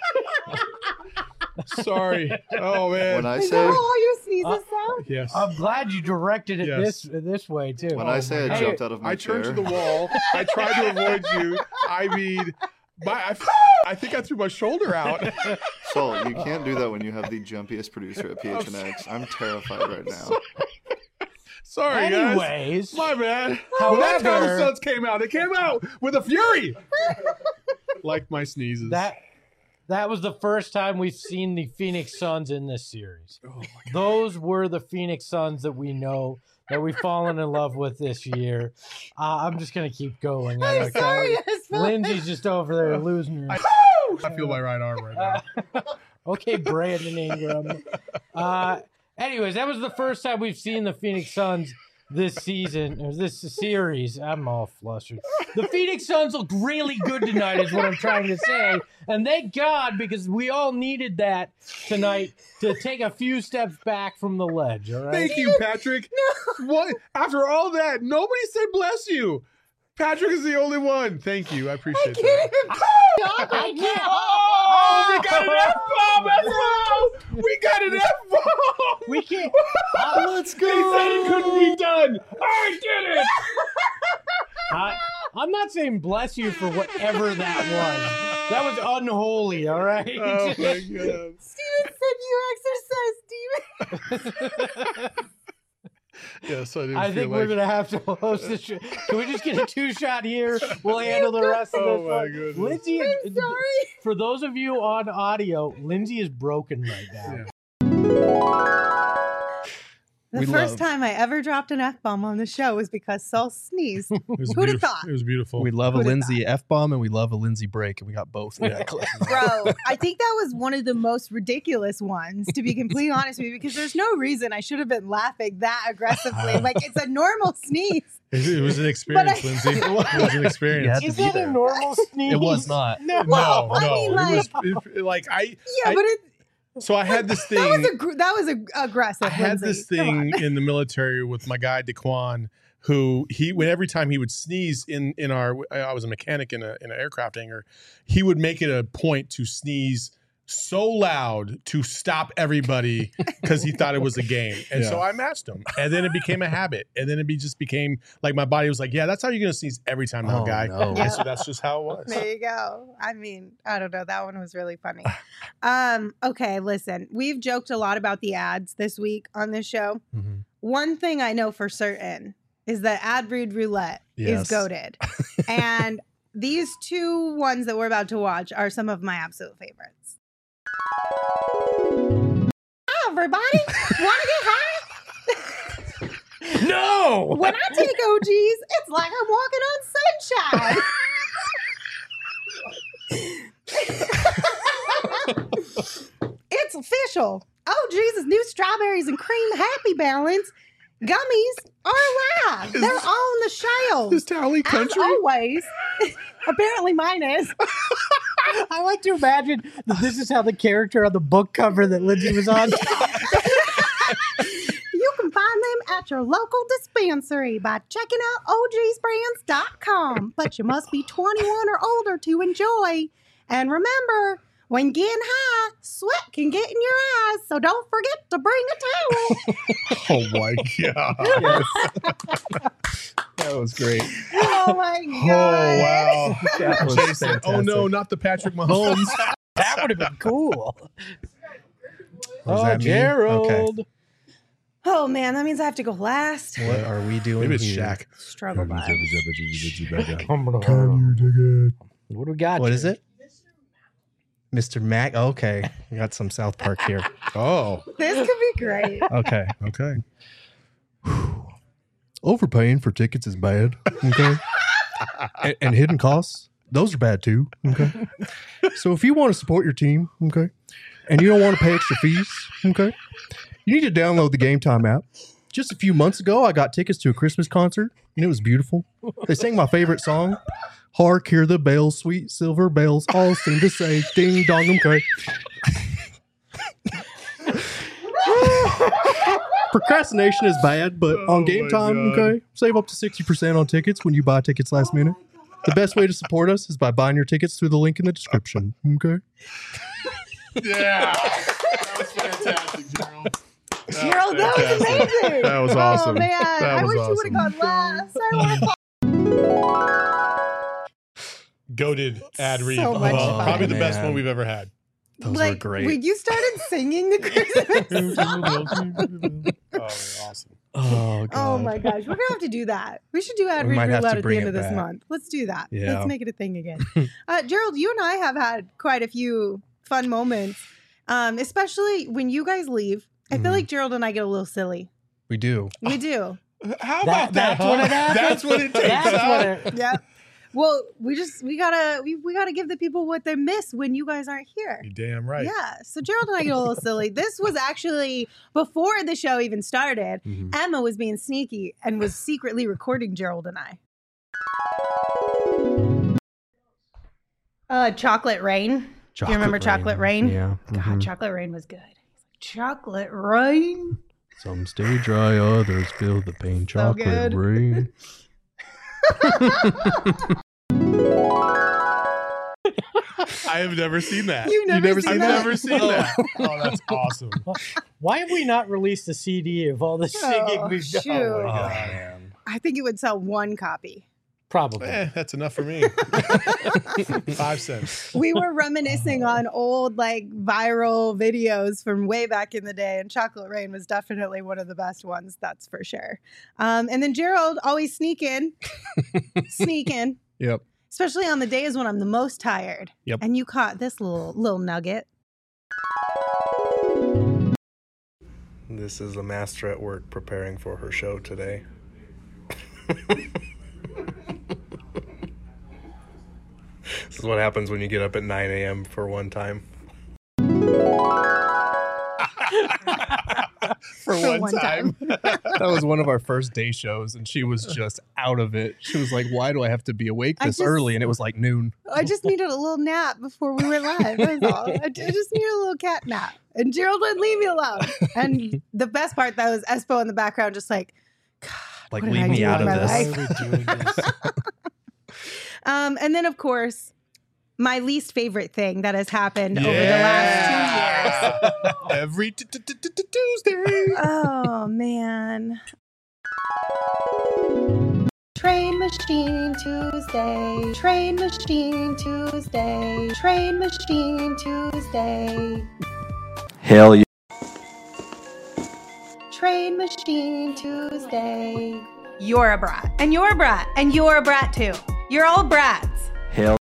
Sorry. Oh man. When I Is say that how all your sneezes Uh, sound? Yes. I'm glad you directed it Yes. this this way too. when I say I Hey, jumped out of my I chair, turned to the wall. I tried to avoid you. I mean, my, I, I think I threw my shoulder out. Saul, you can't do that when you have the jumpiest producer at P H N X. I'm terrified right now. Sorry, Anyways, guys. My bad. Well, that's how the however, Suns came out. They came out with a fury. Like my sneezes. that that was the first time we've seen the Phoenix Suns in this series. Oh my God. Those were the Phoenix Suns that we know, that we've fallen in love with this year. Uh, I'm just gonna keep going. I'm okay? sorry, Espo. fine. Lindsay's just over there losing her. I, I feel my right arm right now. Okay, Brandon Ingram. Uh, anyways, that was the first time we've seen the Phoenix Suns this season, or this series. I'm all flustered. The Phoenix Suns looked really good tonight is what I'm trying to say. And thank God, because we all needed that tonight to take a few steps back from the ledge, all right? Thank you, Patrick. No. What? After all that, nobody said bless you. Patrick is the only one. Thank you. I appreciate I that. can't I can't. Oh, we got an F-bomb as well. We got an F-bomb. We can't. Oh, let's go. He said it couldn't be done. I did it. I, I'm not saying bless you for whatever that was. That was unholy, all right? Oh, my God. Steven said you exercise, Steven. Yes, I didn't I feel think like... we're gonna have to host this. Show. Can we just get a two shot here? We'll handle the rest of Oh this. my one. goodness. Lindsay, is, sorry. For those of you on audio, Lindsay is broken right now. Yeah. The We first love- time I ever dropped an F-bomb on the show was because Saul sneezed. It was Who'd have beautiful. thought? It was beautiful. We love a Who'da Lindsay F bomb and we love a Lindsay break, and we got both. Yeah. Bro, I think that was one of the most ridiculous ones, to be completely honest with you, because there's no reason I should have been laughing that aggressively. Like, it's a normal sneeze. It, it was an experience, I- Lindsay. It was an experience. You had Is to be that a there. normal sneeze? It was not. No. No, I no. mean, it like- was it, like I. Yeah, I- but it, So I had this thing. that was a gr- that was a, aggressive. I had Lindsay. this Come on. thing in the military with my guy Daquan, who he when every time he would sneeze in in our I was a mechanic in a in an aircraft hangar, he would make it a point to sneeze so loud to stop everybody because he thought it was a game. And so I matched him. And then it became a habit. And then it be just became like my body was like, yeah, that's how you're gonna sneeze every time now, Oh, guy. no. And so that's just how it was. There you go. I mean, I don't know. That one was really funny. Um, okay, listen. We've joked a lot about the ads this week on this show. Mhm. One thing I know for certain is that Ad Read Roulette Yes. is goated. And these two ones that we're about to watch are some of my absolute favorites. Hi, everybody. Want to get high? No. When I take O Gs, it's like I'm walking on sunshine. It's official. O Gs' new strawberries and cream Happy Balance gummies are alive. Is They're this- on the shelves. Is Tally country? As always. Apparently mine is. I like to imagine that this is how the character on the book cover that Lindsay was on. You can find them at your local dispensary by checking out O Gs brands dot com. But you must be twenty-one or older to enjoy. And remember, when getting high, sweat can get in your eyes, so don't forget to bring a towel. Oh my god. That was great. Oh my Oh god. wow. That was Jason, oh no, fantastic. not the Patrick Mahomes. That would have been cool. What does Oh, that mean? Gerald. Okay. Oh man, that means I have to go last. What are we doing Maybe it's here? Shaq. Struggle by. What do we got? What is Jared? it? Mister Mac. Okay. We got some South Park here. Oh. This could be great. Okay. Okay. Overpaying for tickets is bad. Okay. and, and hidden costs, those are bad too. Okay. So if you want to support your team, okay, and you don't want to pay extra fees, okay, you need to download the Game Time app. Just a few months ago, I got tickets to a Christmas concert, and it was beautiful. They sang my favorite song, "Hark, Hear the Bells, Sweet Silver Bells, All Seem to Say Ding Dong." Okay. Procrastination is bad, but Oh on Game my Time, God. okay, save up to sixty percent on tickets when you buy tickets last minute. The best way to support us is by buying your tickets through the link in the description. Okay. Yeah. That was fantastic, Gerald. Gerald, that was amazing. That was awesome. Oh man, That I was wish you would have awesome. gone last. I would Goated ad read. So much Uh, fun. Probably the best Man. one we've ever had. Those like were great. when you started singing the Christmas song. Oh, awesome. Oh, God. Oh my gosh, we're gonna have to do that. We should do ad We read might have roulette to at the bring end it of this back. month. Let's do that. Yeah. Let's make it a thing again. uh, Gerald, you and I have had quite a few fun moments, um, especially when you guys leave. I feel Mhm. like Gerald and I get a little silly. We do. We do. How That- about that? that's what huh? it happens? That's what it takes. That's huh? what it, Yep. Well, we just we gotta we, we gotta give the people what they miss when you guys aren't here. You're damn right. Yeah. So Gerald and I get a little silly. This was actually before the show even started. Mhm. Emma was being sneaky and was secretly recording Gerald and I. Uh, Chocolate Rain. Do you remember Chocolate Rain? Yeah. God, mhm. Chocolate Rain was good. Chocolate Rain. Some stay dry, others feel the pain. So Chocolate good. rain. I have never seen that. You've never never seen I've that? never seen that. Oh, that's awesome. Why have we not released a C D of all the singing Oh, we've done? shoot. Oh, man. I think it would sell one copy. Probably. Eh, that's enough for me. Five cents. We were reminiscing on old like viral videos from way back in the day, and Chocolate Rain was definitely one of the best ones, that's for sure. Um, and then Gerald always sneak in, sneak in, Yep. especially on the days when I'm the most tired. Yep. And you caught this little little nugget. This is a master at work preparing for her show today. This is what happens when you get up at nine a.m. for one time. For, For one, one time. That was one of our first day shows, and she was just out of it. She was like, "Why do I have to be awake I this just- early?" And it was like noon. I just needed a little nap before we went live. That was all. I ju- I just needed a little cat nap. And Gerald wouldn't leave me alone. And the best part, though, was Espo in the background just like, Like, what did leave I me do out with of my this. life? Why are we doing this? Um, and then, of course, my least favorite thing that has happened over the Yeah. last two years. Every t- t- t- t- t- Tuesday. Oh, man. Train Machine Tuesday. Train Machine Tuesday. Train Machine Tuesday. Hell yeah. Train Machine Tuesday. You're a brat. And you're a brat. And you're a brat too. You're all brats. Hell.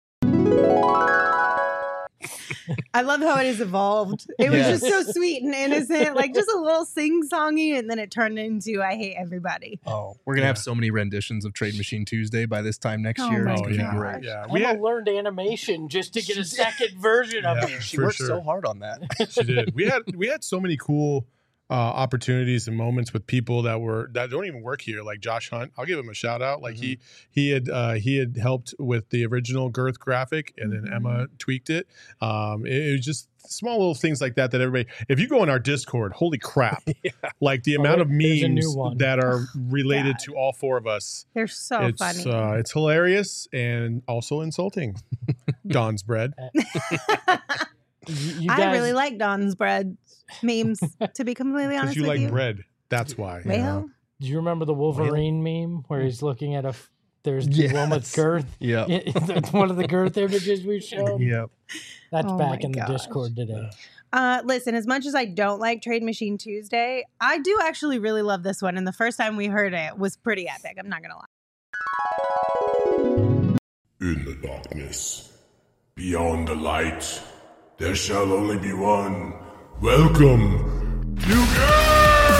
I love how it has evolved. It was Yes. just so sweet and innocent, like just a little sing-songy, and then it turned into I hate everybody. Oh, we're gonna have so many renditions of Trade Machine Tuesday by this time next Oh year. my It's gonna yeah. be great. Yeah. We Emma had, learned animation just to get a second version of Yeah. it. She For worked sure. so hard on that. she did. We had we had so many cool uh, opportunities and moments with people that were that don't even work here, like Josh Hunt. I'll give him a shout out. Like he he had uh, he had helped with the original Girth graphic, and then Emma tweaked it. Um, it, it was just small little things like that that everybody. If you go in our Discord, holy crap! Like the Oh, amount of there's a new memes one. that are related God. to all four of us. They're so it's funny. Uh, it's hilarious and also insulting. Don's bread. You, you I guys, really like Don's bread memes, to be completely Because honest you with like you. bread. That's why. Well, do you remember the Wolverine meme where he's looking at a? f- There's the one with Yes. girth. Yeah. It's one of the girth images we showed. Yep. That's Oh back my in the gosh. Discord today. Uh, listen, as much as I don't like Trade Machine Tuesday, I do actually really love this one. And the first time we heard it was pretty epic. I'm not going to lie. In the darkness, beyond the light, there shall only be one. Welcome to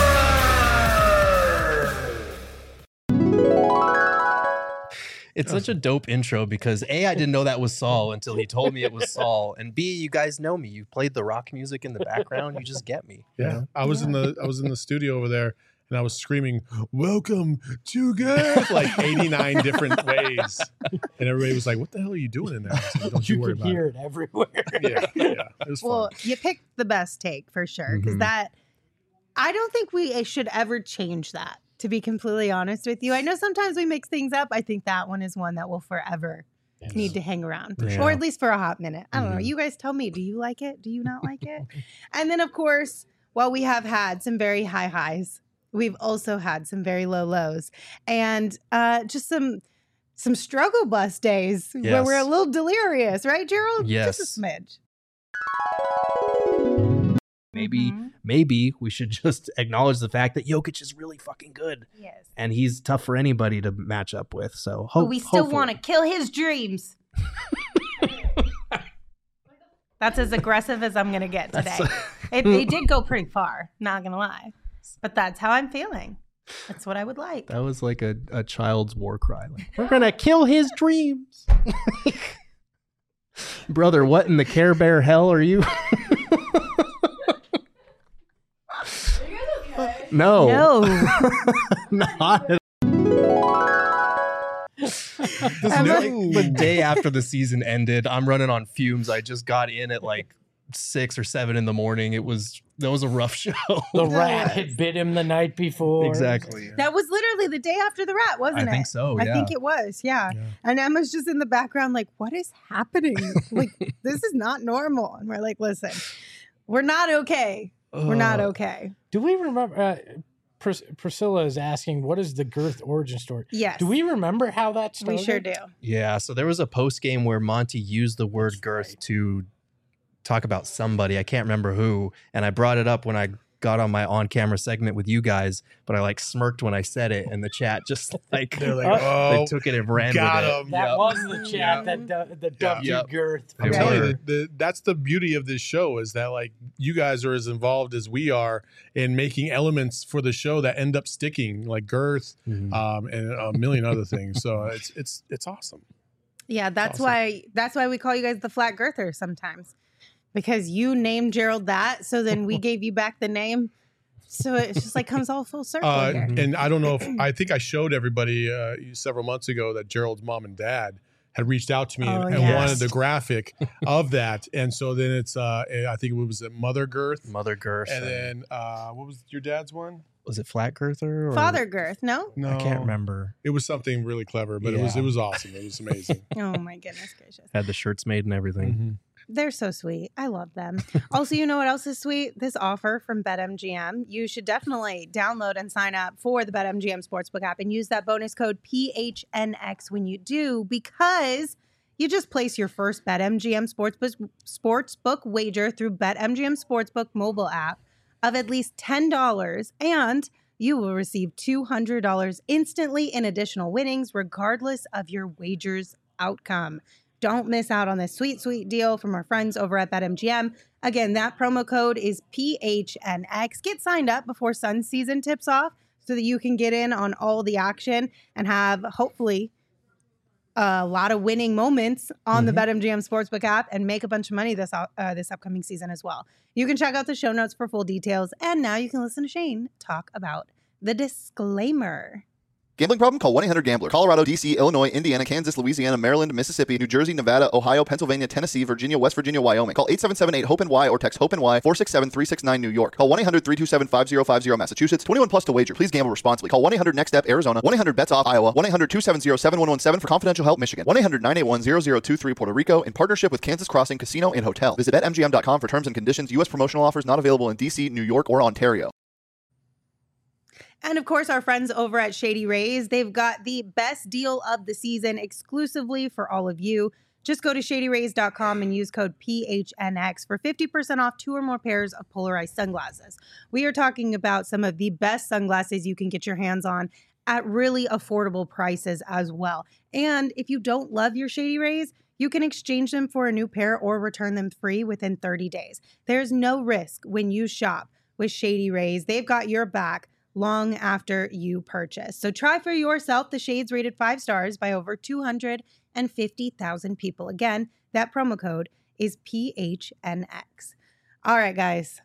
It's such a dope intro because A, I didn't know that was Saul until he told me it was Saul. And B, you guys know me. You played the rock music in the background. You just get me. you Yeah, know? I was in the I was in the studio over there, and I was screaming, "Welcome to Girth!" like eighty-nine different ways, and everybody was like, "What the hell are you doing in there?" I said, Don't you, You worry could about hear it. it everywhere. Yeah, yeah, it was fun. Well, you picked the best take for sure. Because Mhm. that, I don't think we should ever change that, to be completely honest with you. I know sometimes we mix things up. I think that one is one that will forever need to hang around, Yeah. or at least for a hot minute. I don't know. Mhm. You guys tell me. Do you like it? Do you not like it? And then, of course, while we have had some very high highs, we've also had some very low lows, and uh, just some some struggle bus days where we're a Yes. little delirious, right, Gerald? Yes. Just a smidge. Maybe, Mhm. maybe we should just acknowledge the fact that Jokic is really fucking good. Yes. And he's tough for anybody to match up with. So But hope, we still hopefully. want to kill his dreams. That's as aggressive as I'm going to get today. That's- it, it did go pretty far, not going to lie. But that's how I'm feeling. That's what I would like. That was like a, a child's war cry. Like, we're gonna kill his dreams. Brother, what in the Care Bear hell are you? No. No. Not at This I'm no, like- like, the day after the season ended, I'm running on fumes. I just got in at like six or seven in the morning. It was that was a rough show. The rat had bit him the night before. Exactly. That was literally the day after the rat, wasn't I it? think so, I yeah. think it was, yeah. And Emma's just in the background, like, what is happening? Like, this is not normal. And we're like, listen, we're not okay. We're not Uh, okay. Do we remember? Uh, Pris- Priscilla is asking, what is the Girth origin story? Yes. Do we remember how that started? We sure do. Yeah, so there was a post game where Monty used the word girth to talk about somebody. I can't remember who, and I brought it up when I got on my on-camera segment with you guys, but I like smirked when I said it, and the chat just like They're like, Uh, oh, they took it and ran got with it. him. That Yep. was the chat that du- that dubbed Yep. you Girth. I'm They telling were. you, the, the, that's the beauty of this show is that like you guys are as involved as we are in making elements for the show that end up sticking, like girth, Mhm. um, and a million other things. So it's it's it's awesome. Yeah, that's awesome. why that's why we call you guys the Flat Girthers sometimes. Because you named Gerald that, so then we gave you back the name. So it's just like comes all full circle Uh, here. and I don't know if I think I showed everybody uh, several months ago that Gerald's mom and dad had reached out to me Oh, and, and yes. wanted the graphic of that. And so then it's uh, I think it was a Mother Girth, Mother Girth, and then uh, what was your dad's one? was it Flat Girther? Or? Father Girth, no? No, I can't remember. It was something really clever, but it was Yeah. it was awesome. It was amazing. Oh my goodness gracious. Had the shirts made and everything. Mm-hmm. They're so sweet. I love them. Also, you know what else is sweet? This offer from BetMGM. You should definitely download and sign up for the BetMGM Sportsbook app and use that bonus code P H N X when you do, because you just place your first BetMGM Sportsbook, Sportsbook wager through BetMGM Sportsbook mobile app of at least ten dollars, and you will receive two hundred dollars instantly in additional winnings, regardless of your wager's outcome. Don't miss out on this sweet, sweet deal from our friends over at BetMGM. Again, that promo code is P H N X. Get signed up before Sun season tips off so that you can get in on all the action and have, hopefully, a lot of winning moments on Mm-hmm. the BetMGM Sportsbook app and make a bunch of money this uh, this upcoming season as well. You can check out the show notes for full details. And now you can listen to Shane talk about the disclaimer. Gambling problem? Call one eight hundred gambler. Colorado, D C, Illinois, Indiana, Kansas, Louisiana, Maryland, Mississippi, New Jersey, Nevada, Ohio, Pennsylvania, Tennessee, Virginia, West Virginia, Wyoming. Call eight seven seven eight hope N Y or text HOPE-NY four six seven three six nine New York. Call one eight hundred three two seven five zero five zero Massachusetts. twenty-one plus to wager. Please gamble responsibly. Call one eight hundred next step Arizona. one eight hundred bets off Iowa. one eight hundred two seven zero seven one one seven for confidential help Michigan. one eight hundred nine eight one zero zero two three Puerto Rico in partnership with Kansas Crossing Casino and Hotel. Visit bet M G M dot com for terms and conditions. U S promotional offers not available in D C, New York, or Ontario. And of course, our friends over at Shady Rays, they've got the best deal of the season exclusively for all of you. Just go to shady rays dot com and use code P H N X for fifty percent off two or more pairs of polarized sunglasses. We are talking about some of the best sunglasses you can get your hands on at really affordable prices as well. And if you don't love your Shady Rays, you can exchange them for a new pair or return them free within thirty days. There's no risk when you shop with Shady Rays. They've got your back long after you purchase. So try for yourself the shades rated five stars by over two hundred fifty thousand people. Again, that promo code is P H N X. All right, guys.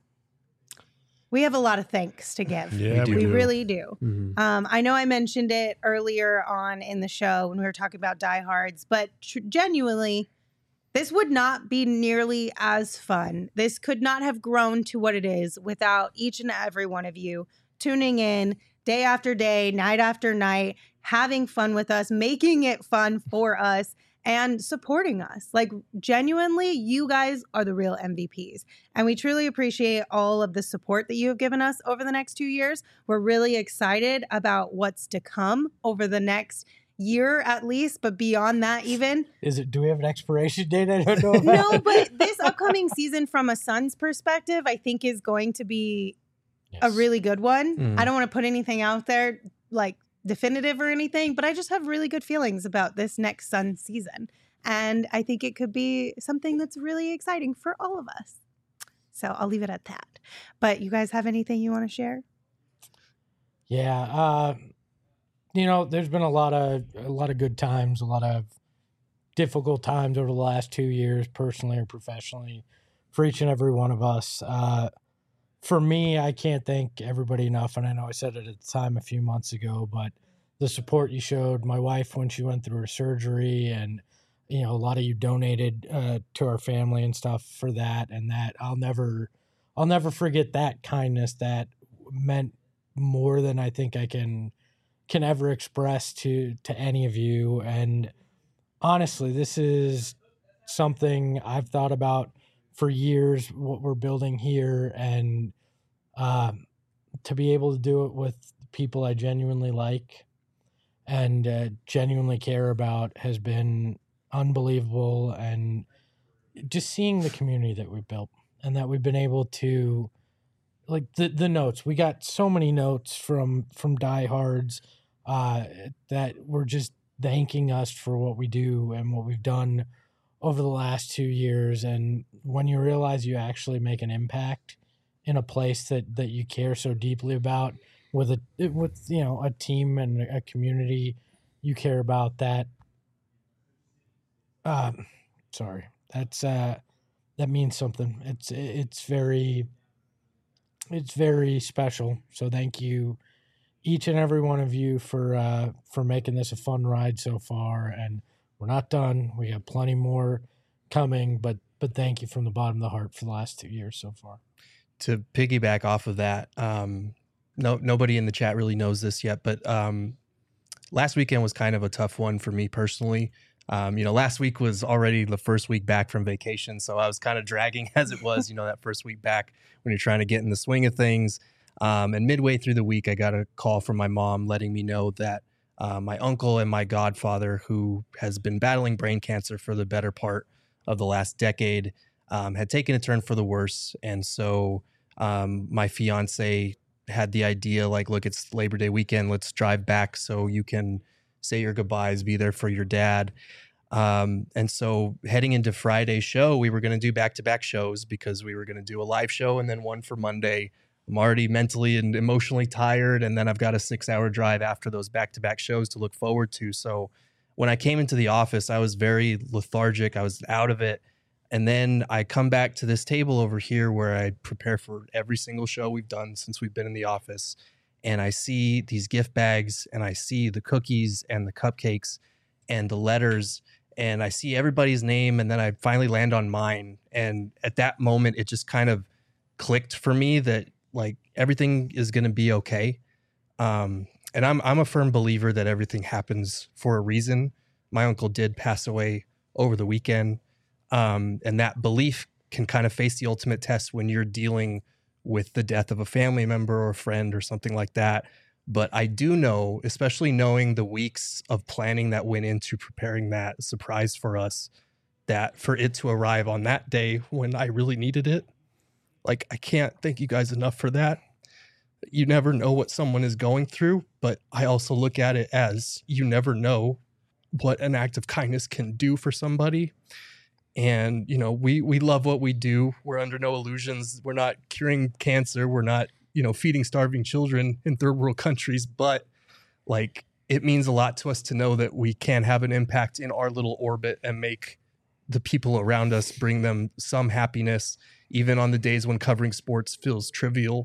We have a lot of thanks to give. Yeah, we, we do. really do. Mhm. Um, I know I mentioned it earlier on in the show when we were talking about diehards, but tr- genuinely, this would not be nearly as fun. This could not have grown to what it is without each and every one of you tuning in day after day, night after night, having fun with us, making it fun for us, and supporting us. Like, genuinely, you guys are the real M V Ps. And we truly appreciate all of the support that you have given us over the next two years. We're really excited about what's to come over the next year at least, but beyond that even. Is it? Do we have an expiration date? I don't know about. No, but this upcoming season from a Suns perspective, I think is going to be a really good one. Mm. I don't want to put anything out there like definitive or anything, but I just have really good feelings about this next Sun season. And I think it could be something that's really exciting for all of us. So I'll leave it at that. But you guys have anything you want to share? Yeah, uh, you know, there's been a lot of a lot of good times, a lot of difficult times over the last two years, personally or professionally, for each and every one of us. Uh, for me, I can't thank everybody enough, and I know I said it at the time a few months ago, but the support you showed my wife when she went through her surgery, and you know, a lot of you donated uh, to our family and stuff for that, and that I'll never, I'll never forget that kindness. That meant more than I think I can can ever express to to any of you. And honestly, this is something I've thought about for years, what we're building here, and um, to be able to do it with people I genuinely like and uh, genuinely care about has been unbelievable. And just seeing the community that we've built and that we've been able to, like the, the notes, we got so many notes from, from diehards uh, that were just thanking us for what we do and what we've done over the last two years. And when you realize you actually make an impact in a place that, that you care so deeply about, with a, with, you know, a team and a community you care about, that, um, sorry, that's, uh, that means something. It's, it's very, it's very special. So thank you, each and every one of you, for, uh, for making this a fun ride so far. And we're not done. We have plenty more coming, but, but thank you from the bottom of the heart for the last two years so far. To piggyback off of that, um, no, nobody in the chat really knows this yet, but um, last weekend was kind of a tough one for me personally. Um, you know, last week was already the first week back from vacation, so I was kind of dragging as it was, you know, that first week back when you're trying to get in the swing of things. Um, and midway through the week, I got a call from my mom letting me know that uh, my uncle and my godfather, who has been battling brain cancer for the better part of the last decade, um, had taken a turn for the worse. And so um, my fiance had the idea, like, look, it's Labor Day weekend. Let's drive back so you can say your goodbyes, be there for your dad. Um, and so heading into Friday's show, we were going to do back-to-back shows because we were going to do a live show and then one for Monday. I'm already mentally and emotionally tired, and then I've got a six-hour drive after those back-to-back shows to look forward to. So when I came into the office, I was very lethargic. I was out of it. And then I come back to this table over here where I prepare for every single show we've done since we've been in the office. And I see these gift bags, and I see the cookies and the cupcakes and the letters, and I see everybody's name. And then I finally land on mine. And at that moment, it just kind of clicked for me that, like, everything is going to be okay. Um, and I'm, I'm a firm believer that everything happens for a reason. My uncle did pass away over the weekend. Um, and that belief can kind of face the ultimate test when you're dealing with the death of a family member or a friend or something like that. But I do know, especially knowing the weeks of planning that went into preparing that surprise for us, that for it to arrive on that day when I really needed it, like, I can't thank you guys enough for that. You never know what someone is going through, but I also look at it as you never know what an act of kindness can do for somebody. And, you know, we, we love what we do. We're under no illusions. We're not curing cancer. We're not, you know, feeding starving children in third world countries. But, like, it means a lot to us to know that we can have an impact in our little orbit and make the people around us, bring them some happiness, even on the days when covering sports feels trivial.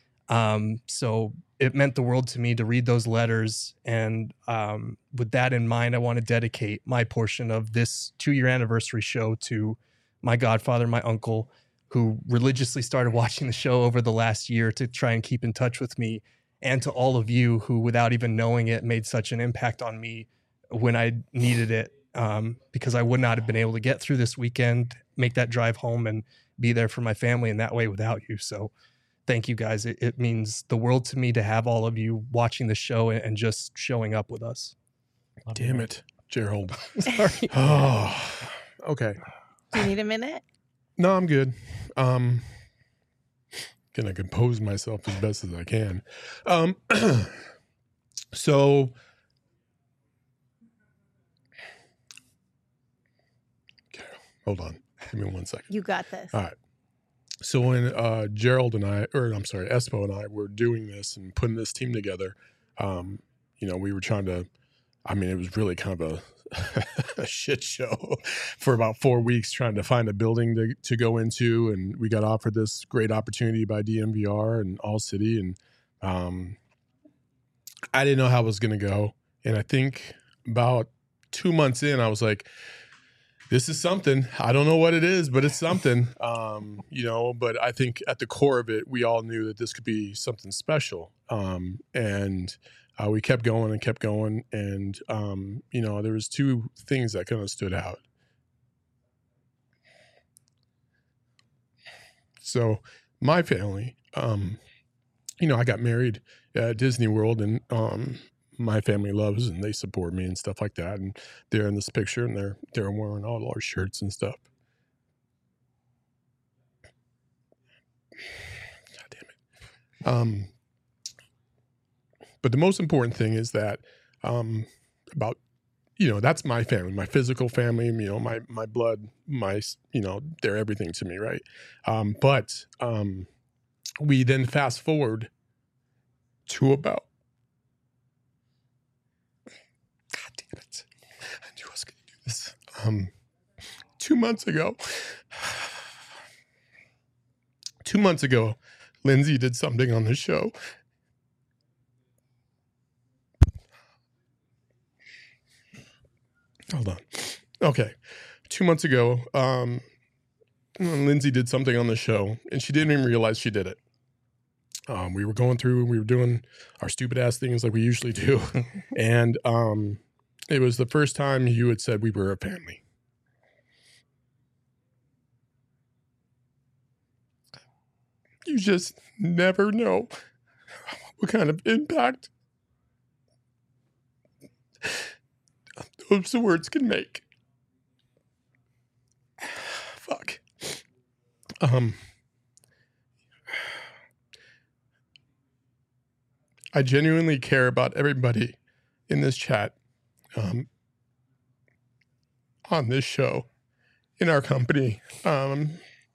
Um, so it meant the world to me to read those letters. And um, with that in mind, I want to dedicate my portion of this two-year anniversary show to my godfather, my uncle, who religiously started watching the show over the last year to try and keep in touch with me, and to all of you who, without even knowing it, made such an impact on me when I needed it, um, because I would not have been able to get through this weekend, make that drive home, and be there for my family in that way without you. So thank you guys. It, it means the world to me to have all of you watching the show and, and just showing up with us. Damn it, Gerald. Sorry. Oh, okay. Do you need a minute? No, I'm good. Um, gonna compose myself as best as I can. Um, so, okay, hold on. Give me one second. You got this. All right. so when uh, Gerald and I, or I'm sorry, Espo and I were doing this and putting this team together, um, you know, we were trying to, I mean, it was really kind of a, a shit show for about four weeks trying to find a building to, to go into. And we got offered this great opportunity by D M V R and All City. And um, I didn't know how it was going to go. And I think about two months in, I was like, this is something. I don't know what it is, but it's something, um, you know, but I think at the core of it, we all knew that this could be something special. Um, and uh, we kept going and kept going. And, um, you know, there was two things that kind of stood out. So my family, um, you know, I got married at Disney World, and um, my family loves and they support me and stuff like that. And they're in this picture, and they're they're wearing all our shirts and stuff. God damn it. Um, but the most important thing is that um, about, you know, that's my family, my physical family, you know, my my blood, my, you know, they're everything to me, right? Um, but um, we then fast forward to about, God damn it, I knew I was going to do this. Um, two months ago, two months ago, Lindsay did something on the show. Hold on. Okay. Two months ago, um, Lindsay did something on the show, and she didn't even realize she did it. Um, we were going through, we were doing our stupid ass things like we usually do. And um, it was the first time you had said we were a family. You just never know what kind of impact those words can make. Fuck. Um, I genuinely care about everybody in this chat, um, on this show, in our company, um,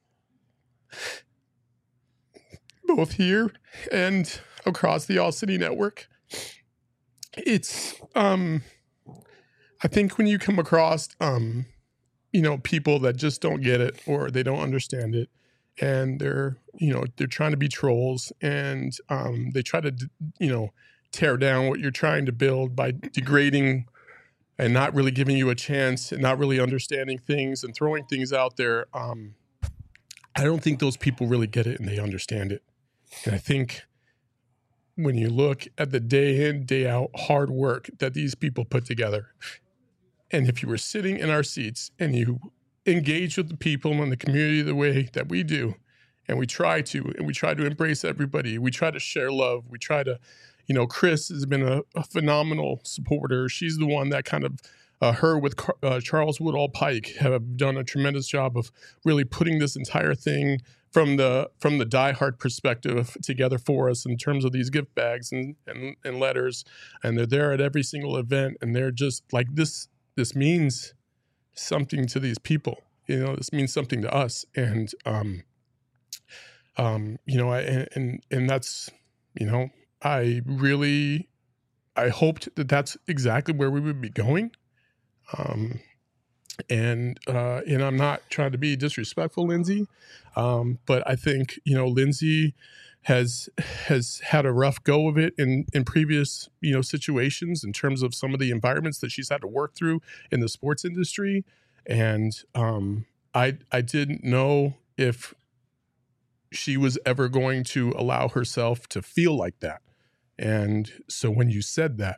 both here and across the All City Network. It's, um, I think when you come across, um, you know, people that just don't get it or they don't understand it, and they're, you know, they're trying to be trolls, and um, they try to, you know, tear down what you're trying to build by degrading and not really giving you a chance and not really understanding things and throwing things out there. Um, I don't think those people really get it and they understand it. And I think when you look at the day in, day out hard work that these people put together, and if you were sitting in our seats and you engage with the people in the community the way that we do, and we try to, and we try to embrace everybody, we try to share love, we try to, you know, Chris has been a, a phenomenal supporter. She's the one that kind of, uh, her with uh, Charles Woodall Pike have done a tremendous job of really putting this entire thing from the from the diehard perspective together for us in terms of these gift bags and, and, and letters. And they're there at every single event, and they're just like, this, this means something to these people, you know, this means something to us. And, um, um, you know, I, and, and that's, you know, I really, I hoped that that's exactly where we would be going. Um, and, uh, and I'm not trying to be disrespectful, Lindsay. Um, but I think, you know, Lindsay has, has had a rough go of it in, in previous, you know, situations in terms of some of the environments that she's had to work through in the sports industry. And, um, I, I didn't know if she was ever going to allow herself to feel like that. And so when you said that,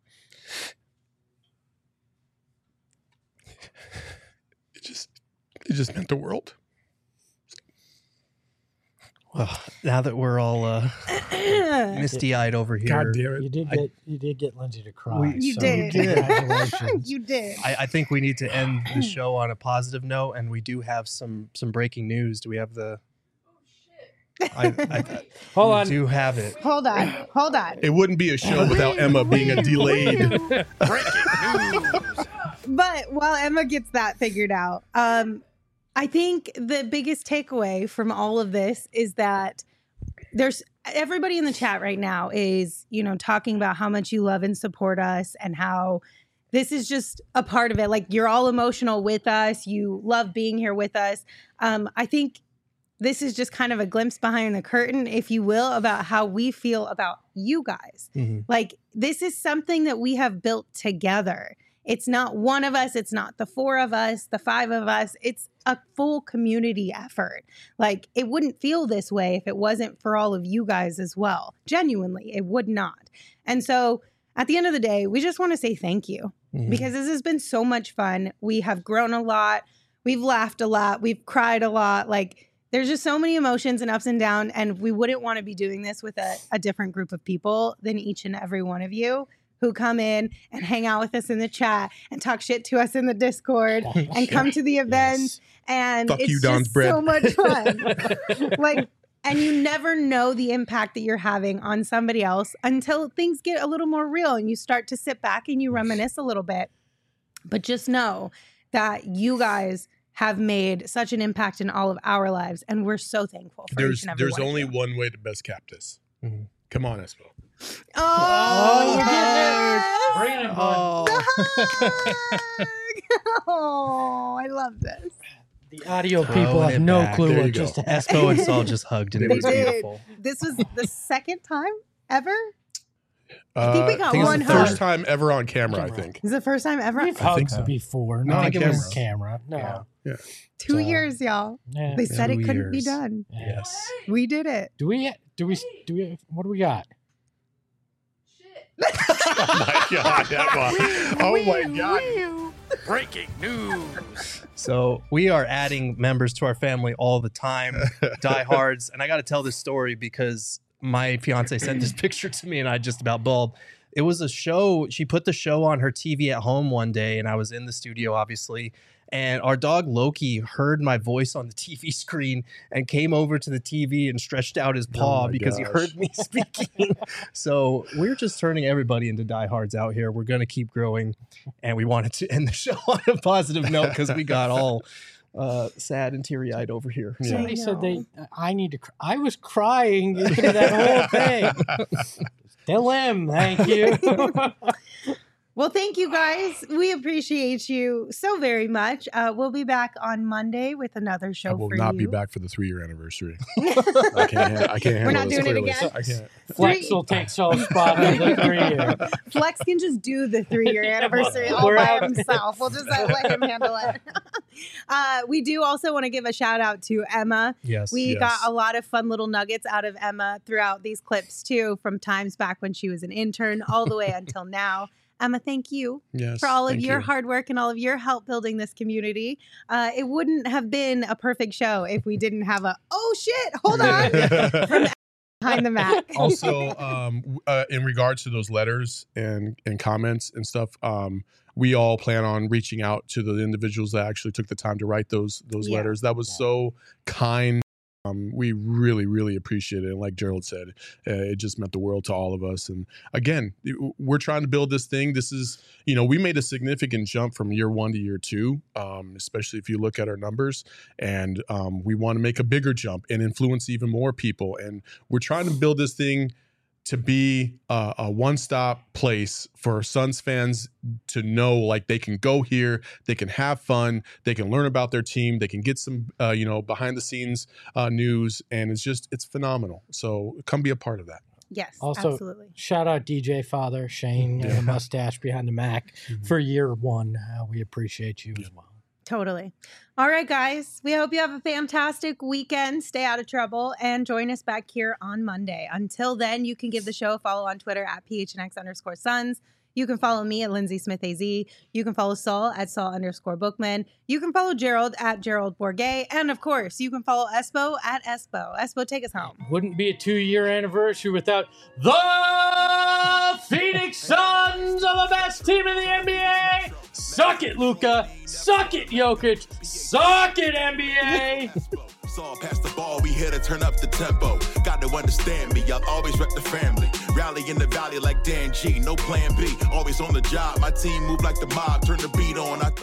it just, it just meant the world. Well, now that we're all uh, misty-eyed over here, God damn it. You did I- get you did get Lindsay to cry. We- You so did. Congratulations. You did. I, I think we need to end the show on a positive note, and we do have some some breaking news. Do we have the? I, I, Hold we on. do have it. Hold on. Hold on. It wouldn't be a show without Emma being a delayed. But while Emma gets that figured out, um, I think the biggest takeaway from all of this is that there's everybody in the chat right now is, you know, talking about how much you love and support us and how this is just a part of it. Like, you're all emotional with us. You love being here with us. Um, I think this is just kind of a glimpse behind the curtain, if you will, about how we feel about you guys. Mm-hmm. Like, this is something that we have built together. It's not one of us. It's not the four of us, the five of us. It's a full community effort. Like, it wouldn't feel this way if it wasn't for all of you guys as well. Genuinely, it would not. And so at the end of the day, we just want to say thank you mm-hmm. because this has been so much fun. We have grown a lot. We've laughed a lot. We've cried a lot. Like, there's just so many emotions and ups and downs. And we wouldn't want to be doing this with a, a different group of people than each and every one of you who come in and hang out with us in the chat and talk shit to us in the Discord oh, and come to the events. Yes. And Fuck it's you, just Don's bread. so much fun. Like, and you never know the impact that you're having on somebody else until things get a little more real and you start to sit back and you reminisce a little bit. But just know that you guys have made such an impact in all of our lives, and we're so thankful for There's each and every there's one only of you. one way to best cap this. Mm-hmm. Come on, Espo. Oh, yes. Bring it, oh. Oh, I love this. The audio people have no back. clue There what you just go. happened. Espo and Saul just hugged, and it They was did. beautiful. This was the second time ever. I think we got Uh, I think one it's the hug. first time ever on camera, I think. Is it the first time ever? We've I think hugged so. before, No, not on on camera. camera. No. Yeah. yeah. Two So, years, y'all. yeah. They said Two it couldn't be years. done. Yes. We did it. Do we? Do we? Do we? What do we got? Oh my god! That was, oh my god! Breaking news. So we are adding members to our family all the time, diehards. And I got to tell this story because my fiance sent this picture to me and I just about bawled. It was a show. She put the show on her T V at home one day and I was in the studio, obviously. And our dog Loki heard my voice on the T V screen and came over to the T V and stretched out his paw Oh my because gosh. he heard me speaking. So we're just turning everybody into diehards out here. We're going to keep growing. And we wanted to end the show on a positive note because we got all uh, sad and teary-eyed over here. Yeah. Somebody said they. I need to. Cry. I was crying through that whole thing. Still am. Thank you. Well, thank you guys. We appreciate you so very much. Uh, we'll be back on Monday with another show I will for not you. be back for the three-year anniversary. I can't. ha- I can't handle We're not this doing it clearly. again? I can't. Flex will take Saul's spot in the three year. Flex can just do the three-year anniversary all We're by out. himself. We'll just uh, let him handle it. uh, we do also want to give a shout out to Emma. Yes. We Yes. got a lot of fun little nuggets out of Emma throughout these clips too, from times back when she was an intern all the way until now. Emma, thank you Yes, for all of thank your you. hard work and all of your help building this community. Uh, it wouldn't have been a perfect show if we didn't have a, oh shit, hold on, from behind the Mac. Also, um, w- uh, in regards to those letters and, and comments and stuff, um, we all plan on reaching out to the individuals that actually took the time to write those those Yeah. letters. That was so kind. Um, we really, really appreciate it. And like Gerald said, uh, it just meant the world to all of us. And again, it- we're trying to build this thing. This is, you know, we made a significant jump from year one to year two, um, especially if you look at our numbers. And um, we want to make a bigger jump and influence even more people. And we're trying to build this thing to be a, a one-stop place for Suns fans to know, like, they can go here, they can have fun, they can learn about their team, they can get some, uh, you know, behind-the-scenes uh, news, and it's just, it's phenomenal. So come be a part of that. Yes, Also, absolutely. shout out D J Father, Shane, and the mustache behind the Mac for year one. Uh, we appreciate you as well. Totally. All right, guys. We hope you have a fantastic weekend. Stay out of trouble and join us back here on Monday. Until then, you can give the show a follow on Twitter at P H N X underscore Suns. You can follow me at Lindsay Smith A Z. You can follow Saul at Saul underscore Bookman. You can follow Gerald at Gerald Bourget. And of course, you can follow Espo at Espo. Espo, take us home. Wouldn't be a two-year anniversary without the Phoenix Suns are the best team in the N B A. Suck it, Luka. Suck it, Jokic. Suck it, N B A. Saw pass the ball, we here to turn up the tempo. Got to understand me, I'll always rep the family. Rally in the valley like Dan G, no plan B. Always on the job, my team move like the mob. Turn the beat on. I